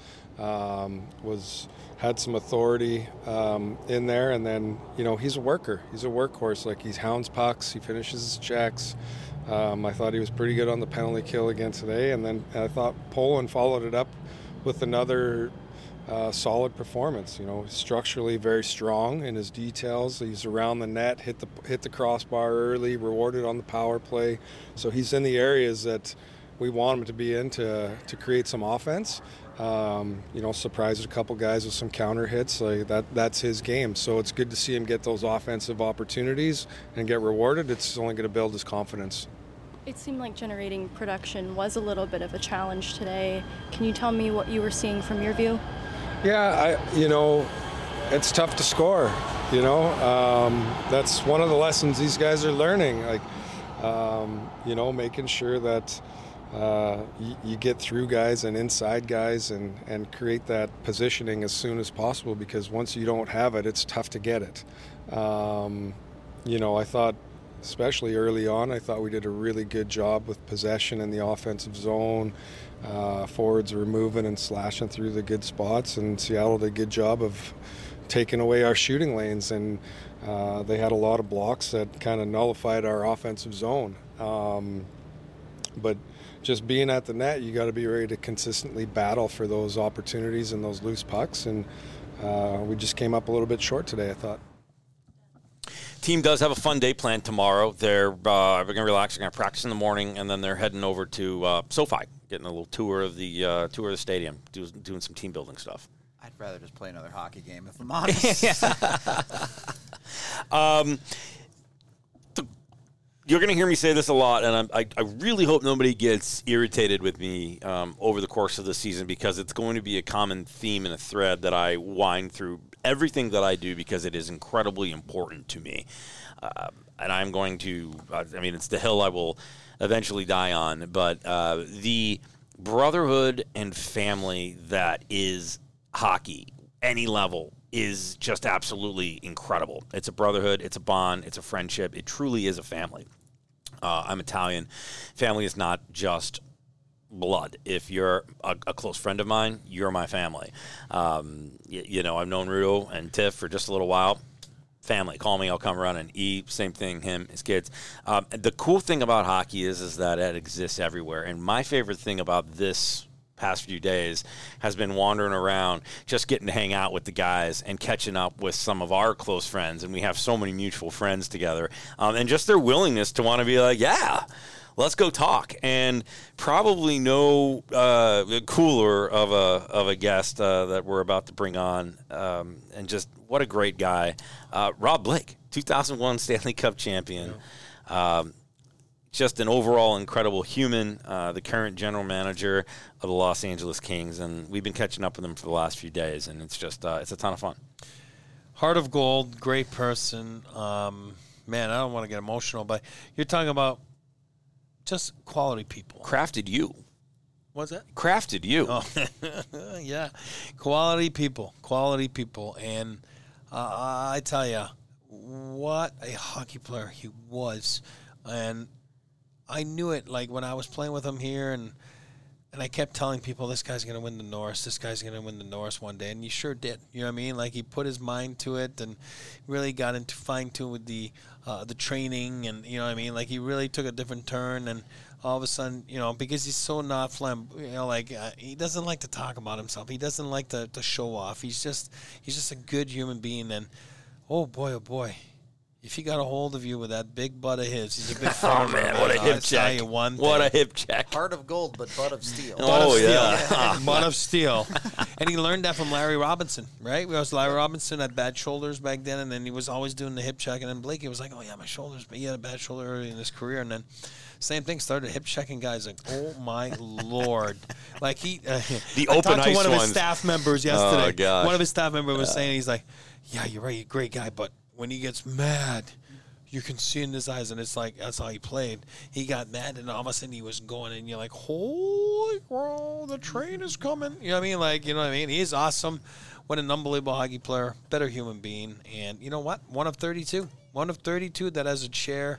had some authority in there, and then, he's a worker. He's a workhorse. He hounds pucks, he finishes his checks. I thought he was pretty good on the penalty kill again today, and then I thought Poland followed it up with another solid performance. Structurally very strong in his details. He's around the net, hit the crossbar early, rewarded on the power play. So he's in the areas that we want him to be in to create some offense. Surprised a couple guys with some counter hits. That's his game. So it's good to see him get those offensive opportunities and get rewarded. It's only going to build his confidence. It seemed like generating production was a little bit of a challenge today. Can you tell me what you were seeing from your view? Yeah, it's tough to score. That's one of the lessons these guys are learning. Making sure that you get through guys and inside guys and create that positioning as soon as possible, because once you don't have it, it's tough to get it. I thought, especially early on, I thought we did a really good job with possession in the offensive zone. Forwards were moving and slashing through the good spots, and Seattle did a good job of taking away our shooting lanes, and they had a lot of blocks that kind of nullified our offensive zone. But just being at the net, you got to be ready to consistently battle for those opportunities and those loose pucks, and we just came up a little bit short today, I thought. Team does have a fun day planned tomorrow. They're going to relax. They're going to practice in the morning, and then they're heading over to SoFi getting a little tour of the stadium, doing some team building stuff. I'd rather just play another hockey game, if I'm honest. You're going to hear me say this a lot, and I really hope nobody gets irritated with me over the course of the season, because it's going to be a common theme and a thread that I wind through everything that I do, because it is incredibly important to me. And I'm going to, it's the hill I will eventually die on, but the brotherhood and family that is hockey, any level, is just absolutely incredible. It's a brotherhood, it's a bond, it's a friendship. It truly is a family. I'm Italian. Family is not just blood. If you're a close friend of mine, you're my family. I've known Rudo and Tiff for just a little while. Family, call me, I'll come running. Same thing, him, his kids. The cool thing about hockey is that it exists everywhere. And my favorite thing about this past few days has been wandering around, just getting to hang out with the guys and catching up with some of our close friends. And we have so many mutual friends together. And just their willingness to want to be like, yeah, let's go talk. And probably no cooler of a guest that we're about to bring on. And just what a great guy. Rob Blake, 2001 Stanley Cup champion. Just an overall incredible human, the current general manager of the Los Angeles Kings. And we've been catching up with him for the last few days, and it's just it's a ton of fun. Heart of gold, great person. Man, I don't want to get emotional, but you're talking about just quality people. Crafted you. What's that? Crafted you. Oh. Yeah. Quality people. And I tell you, what a hockey player he was. And I knew it, like, when I was playing with him here, and I kept telling people, this guy's going to win the Norris one day, and he sure did. You know what I mean? Like, he put his mind to it and really got into fine-tune with the training, and, you know what I mean? Like, he really took a different turn, and all of a sudden, because he's so not he doesn't like to talk about himself. He doesn't like to show off. He's just a good human being, and oh boy. If he got a hold of you with that big butt of his, he's a big farmer. Oh, man, what a hip check. What a hip check. Heart of gold, but butt of steel. Butt of steel. And he learned that from Larry Robinson, right? We was Larry Robinson had bad shoulders back then, and then he was always doing the hip check. And then Blakey was like, oh, yeah, my shoulders. But he had a bad shoulder early in his career. And then same thing, started hip checking guys. Like, oh, my Lord. Like, he the I open talked to ice one of his ones. staff members yesterday. Oh, gosh. One of his staff members was saying, he's like, yeah, you're right, you're a great guy, but when he gets mad, you can see in his eyes, and it's like, that's how he played. He got mad, and all of a sudden he was going, and you're like, holy crow, the train is coming. You know what I mean? He's awesome. What an unbelievable hockey player, better human being. And you know what? One of 32 that has a chair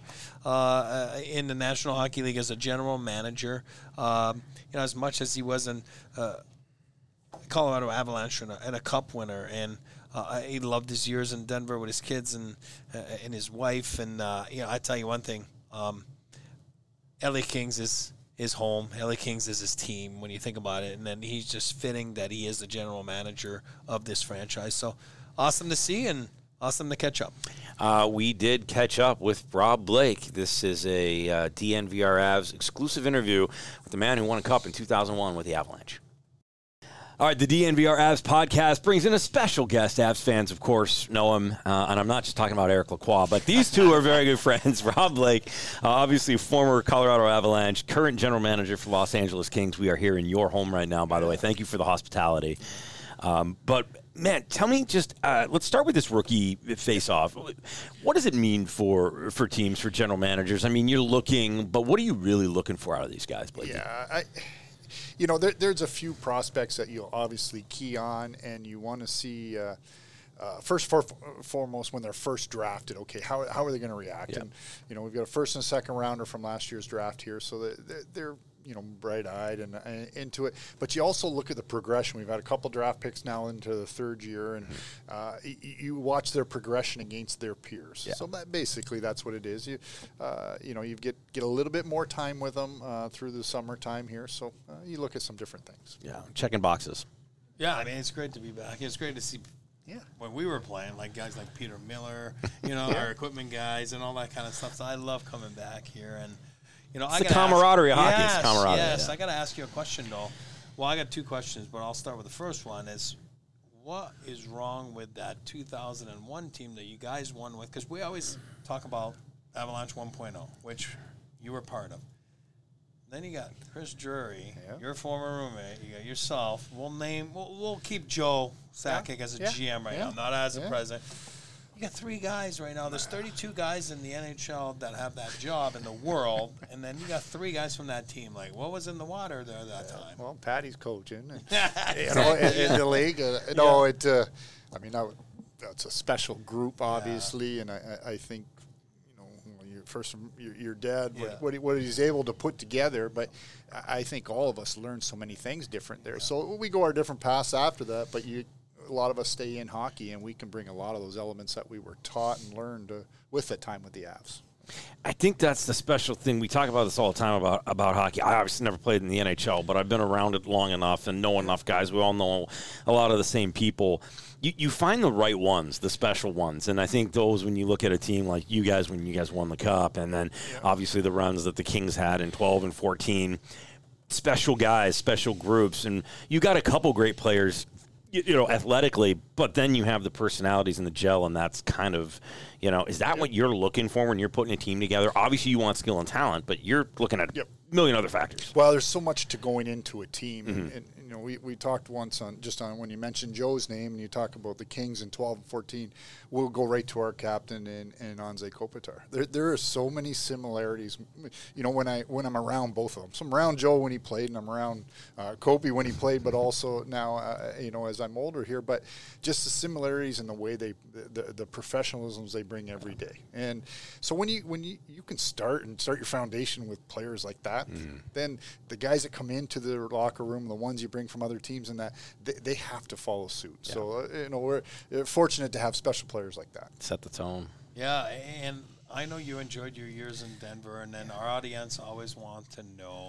in the National Hockey League as a general manager. As much as he was in Colorado Avalanche and a cup winner, and he loved his years in Denver with his kids and his wife. And I tell you one thing, LA Kings is his home. LA Kings is his team when you think about it. And then he's just fitting that he is the general manager of this franchise. So awesome to see and awesome to catch up. We did catch up with Rob Blake. This is a DNVR Avs exclusive interview with the man who won a cup in 2001 with the Avalanche. All right, the DNVR Avs podcast brings in a special guest. Avs fans, of course, know him, and I'm not just talking about Eric Lacroix, but these two are very good friends. Rob Blake, obviously former Colorado Avalanche, current general manager for Los Angeles Kings. We are here in your home right now, by the way. Thank you for the hospitality. But, man, tell me just let's start with this rookie face-off. What does it mean for teams, for general managers? I mean, you're looking, but what are you really looking for out of these guys, Blake? Yeah, there's a few prospects that you'll obviously key on, and you want to see first foremost when they're first drafted. Okay, how are they going to react? Yep. And we've got a first and a second rounder from last year's draft here, so they're bright-eyed and into it. But you also look at the progression. We've had a couple draft picks now into the third year, and you watch their progression against their peers. Yeah. So basically that's what it is. You get a little bit more time with them through the summertime here. So you look at some different things. Yeah, checking boxes. Yeah, I mean, it's great to be back. It's great to see. Yeah, when we were playing, like guys like Peter Miller, our equipment guys, and all that kind of stuff. So I love coming back here and. You know, It's the camaraderie of hockey. It's camaraderie. Yes, I got to ask you a question, though. Well, I got 2 questions, but I'll start with the first one. Is what is wrong with that 2001 team that you guys won with? Because we always talk about Avalanche 1.0, which you were part of. Then you got Chris Drury, your former roommate. You got yourself. We'll keep Joe Sakic as a GM right now, not as a president. You got 3 guys right now. There's 32 guys in the NHL that have that job in the world, and then you got 3 guys from that team. Like, what was in the water there that time? Well, Patty's coaching, in the league. I mean, that's a special group, obviously, and I think, your dad, what he's able to put together, but I think all of us learned so many things different there. So we go our different paths after that, but a lot of us stay in hockey, and we can bring a lot of those elements that we were taught and learned with that time with the Avs. I think that's the special thing. We talk about this all the time about hockey. I obviously never played in the NHL, but I've been around it long enough and know enough guys. We all know a lot of the same people. You find the right ones, the special ones, and I think those, when you look at a team like you guys, when you guys won the Cup, and then obviously the runs that the Kings had in 12 and 14, special guys, special groups, and you got a couple great players, athletically, but then you have the personalities in the gel, and that's kind of, is that what you're looking for when you're putting a team together? Obviously, you want skill and talent, but you're looking at a million other factors. Well, there's so much to going into a team, and we talked once on when you mentioned Joe's name, and you talk about the Kings in 12 and 14, we'll go right to our captain and Anze Kopitar. There are so many similarities. When I'm around both of them, so I'm around Joe when he played, and I'm around Kopi when he played, but also now, as I'm older here, but just the similarities in the way the professionalisms they bring every day. And so when you can start your foundation with players like that, then the guys that come into the locker room, the ones you bring from other teams, and that they have to follow suit. Yeah. So we're fortunate to have special players like that. Set the tone. Yeah, and I know you enjoyed your years in Denver, and then our audience always want to know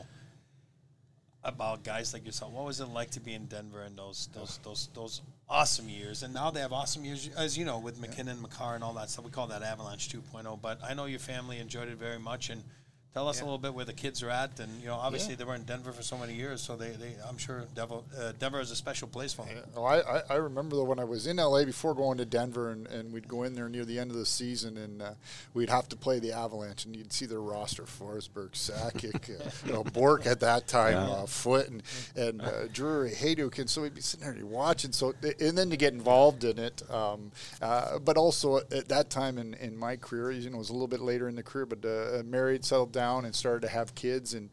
about guys like yourself. What was it like to be in Denver in those awesome years? And now they have awesome years, as you know, with McKinnon, Makar, and all that stuff. We call that Avalanche 2.0. But I know your family enjoyed it very much, and tell us a little bit where the kids are at, and obviously they were in Denver for so many years, so they I'm sure Denver is a special place for them. Yeah. Well, I remember though when I was in LA before going to Denver, and we'd go in there near the end of the season, and we'd have to play the Avalanche, and you'd see their roster: Forsberg, Sakic, Bork at that time, Foote, and Drury, Hayduk, and so we'd be sitting there watching. So and then to get involved in it, but also at that time in my career, it was a little bit later in the career, but married, settled down, and started to have kids, and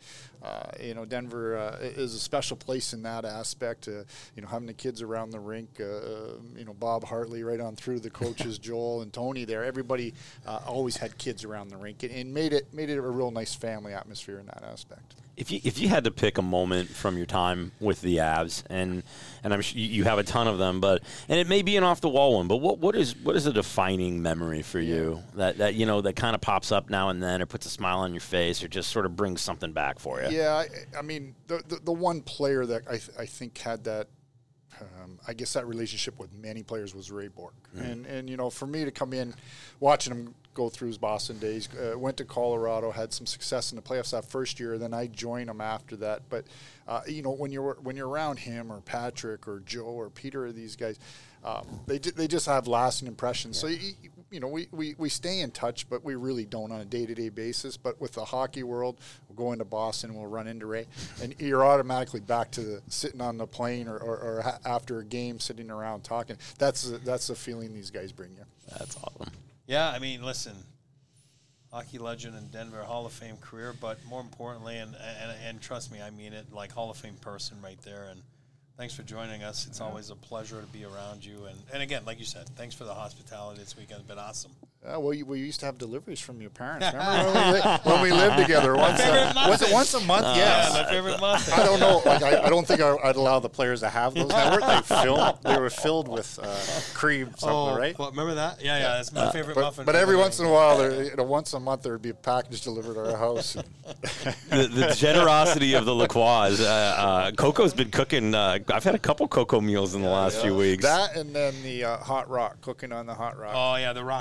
Denver is a special place in that aspect. Having the kids around the rink, Bob Hartley right on through the coaches, Joel and Tony there. Everybody always had kids around the rink, and made it a real nice family atmosphere in that aspect. If you had to pick a moment from your time with the Avs, and I'm sure you have a ton of them, and it may be an off the wall one, but what is a defining memory for you that that kind of pops up now and then, or puts a smile on your face, or just sort of brings something back for you? Yeah, I mean the one player that I think had that. I guess that relationship with many players was Ray Bork. And for me to come in, watching him go through his Boston days, went to Colorado, had some success in the playoffs that first year, then I joined him after that. But, when you're around him or Patrick or Joe or Peter or these guys, they just have lasting impressions. Yeah. So, we stay in touch, but we really don't on a day-to-day basis. But with the hockey world, we'll go into Boston, we'll run into Ray, and you're automatically back to sitting on the plane or after a game, sitting around talking. That's the feeling these guys bring you. That's awesome. Yeah, I mean, listen, hockey legend in Denver, Hall of Fame career, but more importantly, and trust me, I mean it, like Hall of Fame person right there. And thanks for joining us. It's always a pleasure to be around you. And again, like you said, thanks for the hospitality this weekend. It's been awesome. We used to have deliveries from your parents. Remember when we lived together? Was it once a month? Yes. Yeah, my favorite muffin. I don't know. I don't think I'd allow the players to have those. They were filled with cream, right? Well, remember that? Yeah, that's my favorite muffin. But every once in a while, once a month, there would be a package delivered to our house. the generosity of the Lacroix. Coco's been cooking. I've had a couple Coco meals in the last few weeks. That and then the hot rock, cooking on the hot rock. Oh, yeah, the raclette.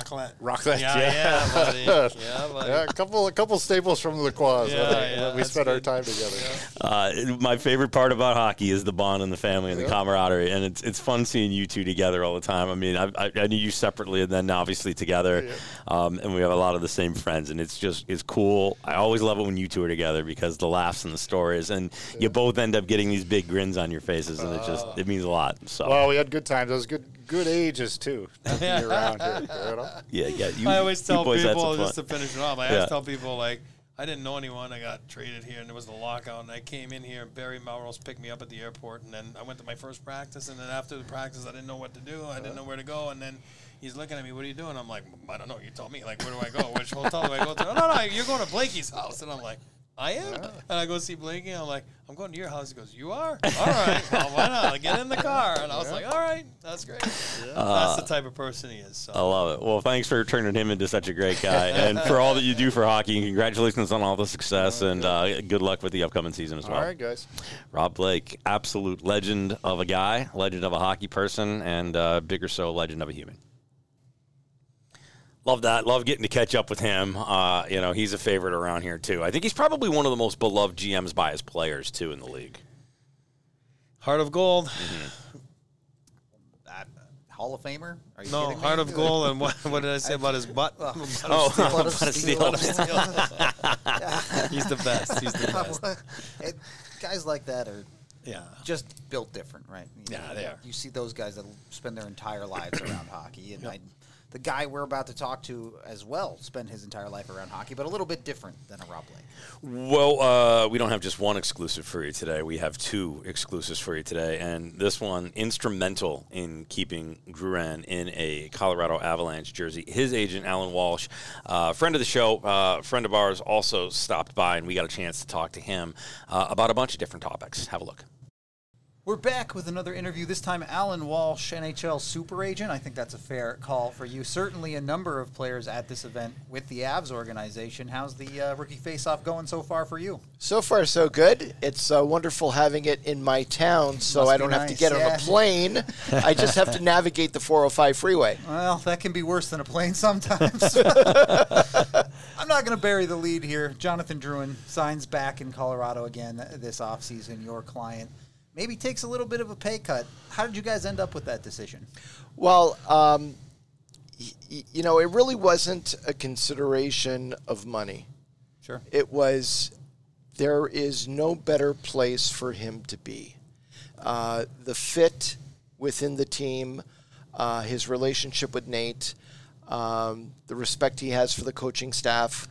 Rockland. Yeah, buddy. Yeah, buddy. Yeah, a couple staples from the Quaz. We spent our time together. My favorite part about hockey is the bond and the family and the camaraderie, and it's fun seeing you two together all the time. I mean, I knew you separately and then obviously together, and we have a lot of the same friends, and it's cool. I always love it when you two are together because the laughs and the stories, and you both end up getting these big grins on your faces, and it means a lot. So well, we had good times. Those good ages too. Around here, you know? Yeah. I always tell people, just to finish it off, I always tell people, like, I didn't know anyone. I got traded here, and there was the lockout, and I came in here, and Barry Melrose picked me up at the airport, and then I went to my first practice, and then after the practice, I didn't know what to do. I didn't know where to go, and then he's looking at me, what are you doing? I'm like, I don't know. You tell me. Like, where do I go? Which hotel do I go to? No, you're going to Blakey's house. And I'm like, I am? And I go see Blakey, and I'm like, I'm going to your house. He goes, you are? All right. Well, why not? Get in the car. And I was like, all right, that's great. That's the type of person he is. So. I love it. Well, thanks for turning him into such a great guy and for all that you do for hockey. And congratulations on all the success and good luck with the upcoming season as well. All right, guys. Rob Blake, absolute legend of a guy, legend of a hockey person, and bigger so, legend of a human. Love that. Love getting to catch up with him. He's a favorite around here, too. I think he's probably one of the most beloved GMs by his players, too, in the league. Heart of Gold. Mm-hmm. That Hall of Famer? Are you No, kidding me? Heart of Gold. And what did I say about his butt? Butt of steel. He's the best. He's the best. Guys like that are Yeah. just built different, right? They are. You see those guys that spend their entire lives around hockey, and the guy we're about to talk to as well spent his entire life around hockey, but a little bit different than a Rob Blake. Well, we don't have just one exclusive for you today. We have two exclusives for you today, and this one instrumental in keeping Drouin in a Colorado Avalanche jersey. His agent, Alan Walsh, friend of the show, friend of ours, also stopped by, and we got a chance to talk to him about a bunch of different topics. Have a look. We're back with another interview, this time Alan Walsh, NHL super agent. I think that's a fair call for you. Certainly a number of players at this event with the Avs organization. How's the rookie face-off going so far for you? So far, so good. It's wonderful having it in my town, so I don't have to get on a plane. I just have to navigate the 405 freeway. Well, that can be worse than a plane sometimes. I'm not going to bury the lead here. Jonathan Drouin signs back in Colorado again this offseason, your client. Maybe takes a little bit of a pay cut. How did you guys end up with that decision? Well, it really wasn't a consideration of money. Sure. It was, there is no better place for him to be. The fit within the team, his relationship with Nate, the respect he has for the coaching staff.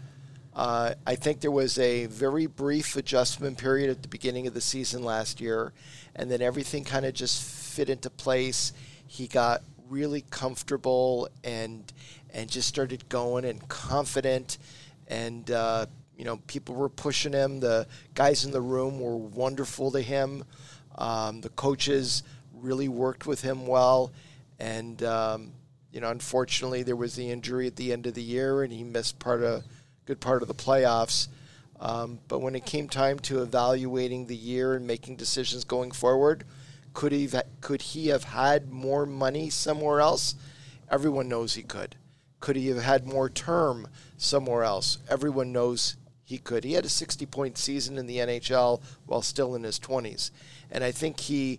I think there was a very brief adjustment period at the beginning of the season last year, and then everything kind of just fit into place. He got really comfortable and just started going and confident, and people were pushing him. The guys in the room were wonderful to him. The coaches really worked with him well, and unfortunately there was the injury at the end of the year, and he missed good part of the playoffs. But when it came time to evaluating the year and making decisions going forward, could he have had more money somewhere else? Everyone knows he could. Could he have had more term somewhere else? Everyone knows he could. He had a 60-point season in the NHL while still in his 20s. And I think he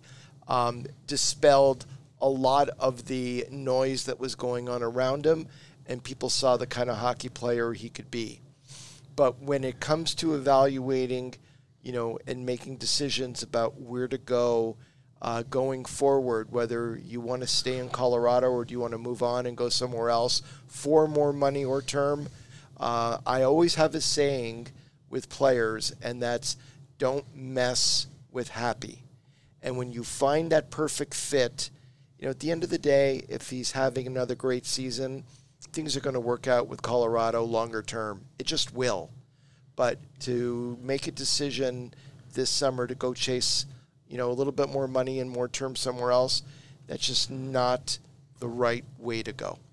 dispelled a lot of the noise that was going on around him, and people saw the kind of hockey player he could be. But when it comes to evaluating, and making decisions about where to go going forward, whether you want to stay in Colorado or do you want to move on and go somewhere else for more money or term, I always have a saying with players, and that's don't mess with happy. And when you find that perfect fit, at the end of the day, if he's having another great season, things are going to work out with Colorado longer term. It just will. But to make a decision this summer to go chase, a little bit more money and more term somewhere else, that's just not the right way to go.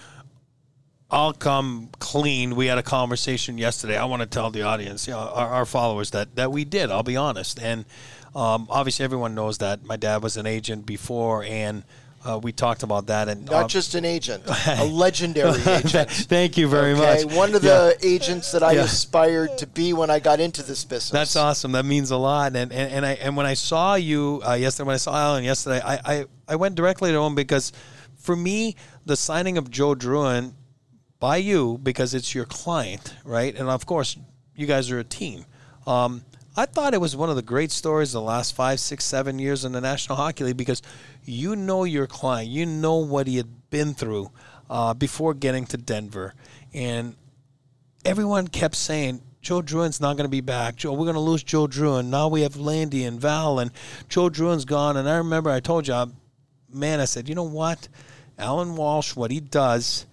I'll come clean. We had a conversation yesterday. I want to tell the audience, our followers, that we did. I'll be honest. And obviously everyone knows that my dad was an agent before, and we talked about that. And not just an agent, a legendary agent. Thank you very much. One of the agents that I aspired to be when I got into this business. That's awesome. That means a lot. And when I saw you yesterday, when I saw Alan yesterday, I went directly to him because for me, the signing of Joe Drouin by you, because it's your client, right? And of course, you guys are a team. I thought it was one of the great stories the last 5, 6, 7 years in the National Hockey League because you know your client. You know what he had been through before getting to Denver. And everyone kept saying, Joe Drouin's not going to be back. We're going to lose Joe Drouin. Now we have Landy and Val, and Joe Drouin's gone. And I remember I told you, I said, you know what? Alan Walsh, what he does,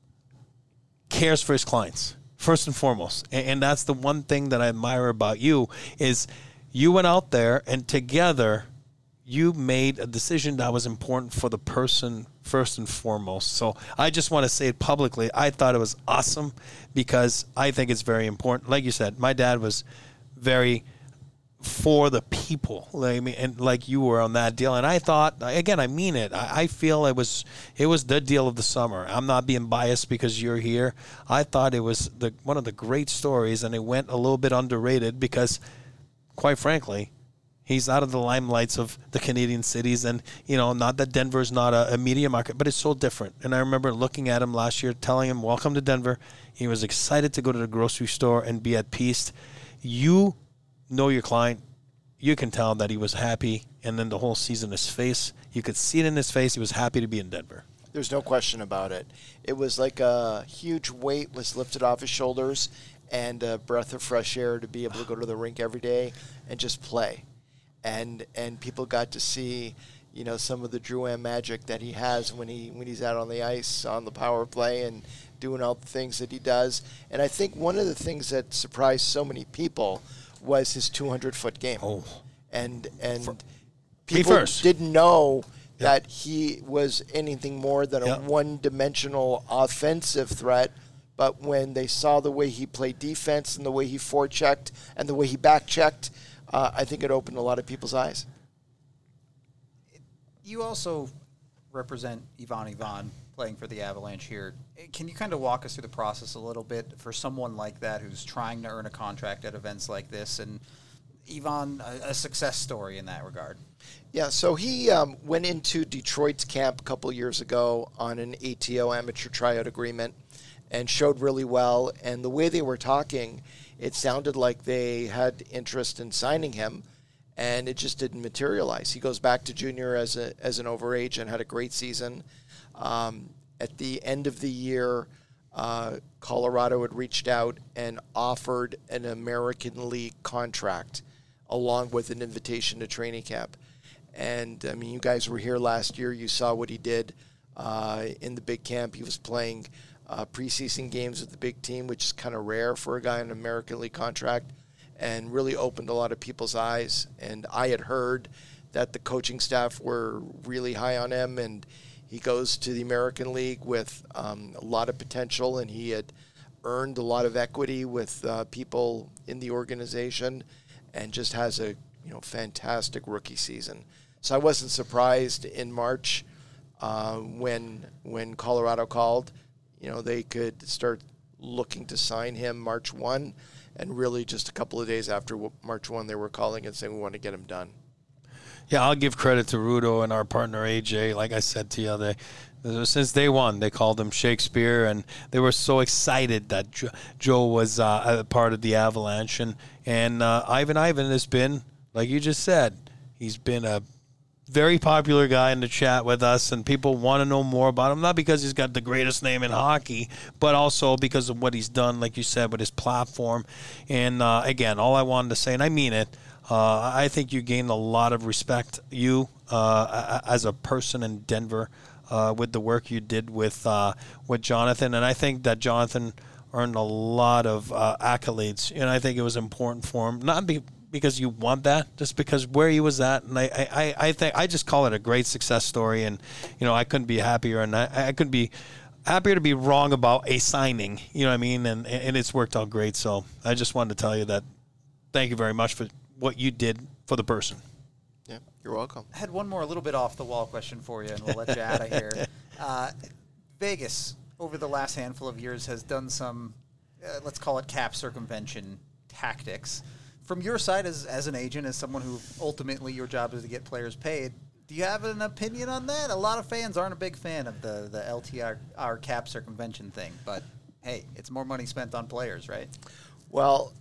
cares for his clients. First and foremost, and that's the one thing that I admire about you is you went out there and together you made a decision that was important for the person first and foremost. So I just want to say it publicly. I thought it was awesome because I think it's very important. Like you said, my dad was very for the people, like you were on that deal. And I thought, again, I mean it. I feel it was the deal of the summer. I'm not being biased because you're here. I thought it was one of the great stories, and it went a little bit underrated because, quite frankly, he's out of the limelights of the Canadian cities. And, not that Denver's not a media market, but it's so different. And I remember looking at him last year, telling him, welcome to Denver. He was excited to go to the grocery store and be at peace. You know your client, you can tell that he was happy, and then the whole season, his face, you could see it in his face, he was happy to be in Denver. There's no question about it. It was like a huge weight was lifted off his shoulders and a breath of fresh air to be able to go to the rink every day and just play. And people got to see, some of the Drouin magic that he has when he's out on the ice, on the power play, and doing all the things that he does. And I think one of the things that surprised so many people was his 200-foot game. Oh. And people didn't know that he was anything more than a one-dimensional offensive threat. But when they saw the way he played defense and the way he forechecked and the way he back-checked, I think it opened a lot of people's eyes. You also represent Ivan playing for the Avalanche here. Can you kind of walk us through the process a little bit for someone like that who's trying to earn a contract at events like this, and Ivan, a success story in that regard? Yeah, so he went into Detroit's camp a couple years ago on an ATO amateur tryout agreement and showed really well. And the way they were talking, it sounded like they had interest in signing him, and it just didn't materialize. He goes back to junior as an overage and had a great season. At the end of the year, Colorado had reached out and offered an American League contract along with an invitation to training camp. And, I mean, you guys were here last year. You saw what he did in the big camp. He was playing preseason games with the big team, which is kind of rare for a guy on an American League contract, and really opened a lot of people's eyes. And I had heard that the coaching staff were really high on him, and he goes to the American League with a lot of potential, and he had earned a lot of equity with people in the organization, and just has a fantastic rookie season. So I wasn't surprised in March when Colorado called. They could start looking to sign him March 1, and really just a couple of days after March 1, they were calling and saying we want to get him done. Yeah, I'll give credit to Rudo and our partner AJ. Like I said to you, since day one, they called him Shakespeare, and they were so excited that Joe was a part of the Avalanche. And Ivan has been, like you just said, he's been a very popular guy in the chat with us, and people want to know more about him, not because he's got the greatest name in hockey, but also because of what he's done, like you said, with his platform. And, again, all I wanted to say, and I mean it, I think you gained a lot of respect, as a person in Denver, with the work you did with Jonathan. And I think that Jonathan earned a lot of accolades, and I think it was important for him, not because you want that, just because where he was at. And I think I just call it a great success story, and I couldn't be happier, and I couldn't be happier to be wrong about a signing, you know what I mean, and it's worked out great. So I just wanted to tell you that thank you very much for what you did for the person. Yeah, You're welcome. I had one more, a little bit off the wall question for you, and we'll let you out of here. Vegas, over the last handful of years, has done some, let's call it cap circumvention tactics. From your side as an agent, as someone who ultimately your job is to get players paid, do you have an opinion on that? A lot of fans aren't a big fan of the LTR cap circumvention thing, but hey, it's more money spent on players, right? Well,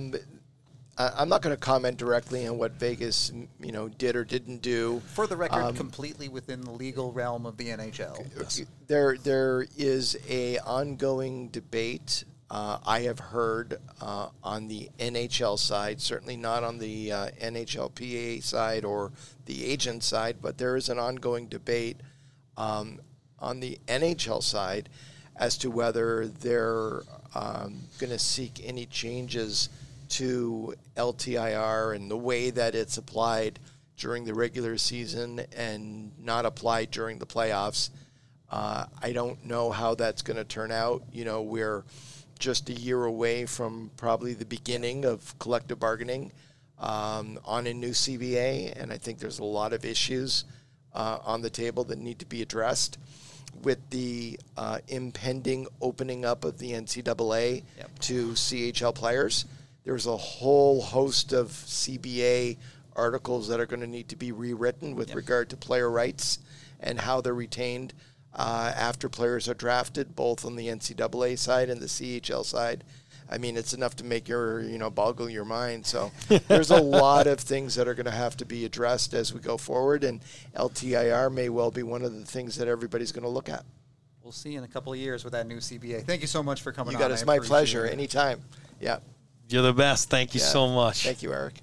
I'm not going to comment directly on what Vegas, did or didn't do. For the record, completely within the legal realm of the NHL. Yes. There is a ongoing debate. I have heard on the NHL side, certainly not on the NHLPA side or the agent side, but there is an ongoing debate on the NHL side as to whether they're going to seek any changes to LTIR and the way that it's applied during the regular season and not applied during the playoffs. I don't know how that's going to turn out. We're just a year away from probably the beginning of collective bargaining on a new CBA, and I think there's a lot of issues on the table that need to be addressed. With the impending opening up of the NCAA to CHL players, there's a whole host of CBA articles that are going to need to be rewritten with regard to player rights and how they're retained after players are drafted, both on the NCAA side and the CHL side. I mean, it's enough to make your, boggle your mind. So there's a lot of things that are going to have to be addressed as we go forward, and LTIR may well be one of the things that everybody's going to look at. We'll see in a couple of years with that new CBA. Thank you so much for coming on. You got it. It's my pleasure. Anytime. Yeah. You're the best. Thank you so much. Thank you, Eric.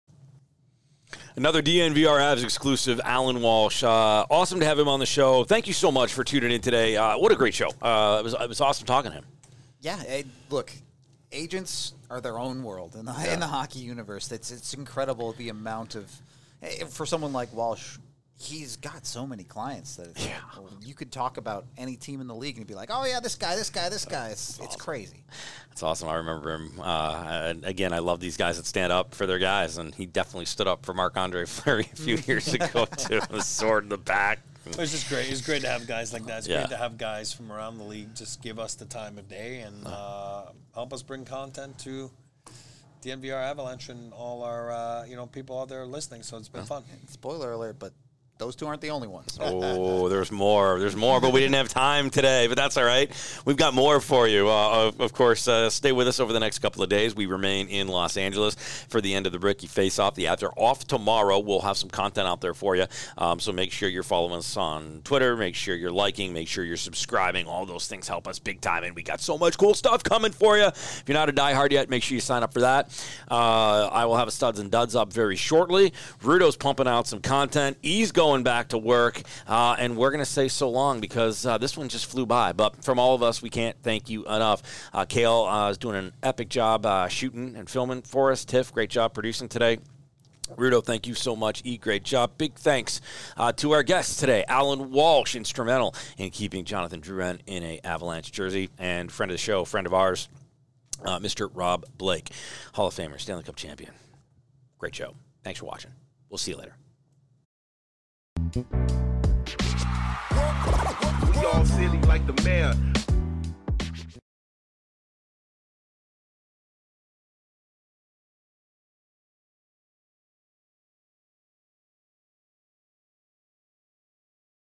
Another DNVR Avs exclusive, Alan Walsh. Awesome to have him on the show. Thank you so much for tuning in today. What a great show. It was awesome talking to him. Yeah, look, agents are their own world in the hockey universe. It's incredible the amount of, for someone like Walsh, he's got so many clients that you could talk about any team in the league and be like, oh yeah, this guy. It's crazy. That's awesome. I remember him. And again, I love these guys that stand up for their guys, and he definitely stood up for Marc-Andre Fleury a few years ago too. The sword in the back. It's just great. It's great to have guys like that. It's great to have guys from around the league just give us the time of day and help us bring content to the NVR Avalanche and all our people out there listening. So it's been fun. Spoiler alert, but those two aren't the only ones. Oh, there's more. There's more, but we didn't have time today. But that's all right. We've got more for you. Of course, stay with us over the next couple of days. We remain in Los Angeles for the end of the Rookie Face-Off. The Avs are off tomorrow. We'll have some content out there for you. So make sure you're following us on Twitter. Make sure you're liking. Make sure you're subscribing. All those things help us big time. And we got so much cool stuff coming for you. If you're not a diehard yet, make sure you sign up for that. I will have a Studs and Duds up very shortly. Rudo's pumping out some content. He's going back to work, and we're going to say so long because this one just flew by. But from all of us, we can't thank you enough. Kale is doing an epic job shooting and filming for us. Tiff, great job producing today. Rudo, thank you so much. Great job. Big thanks to our guests today. Alan Walsh, instrumental in keeping Jonathan Drouin in a Avalanche jersey, and friend of the show, friend of ours, Mr. Rob Blake, Hall of Famer, Stanley Cup champion. Great show. Thanks for watching. We'll see you later. We all silly like the mayor.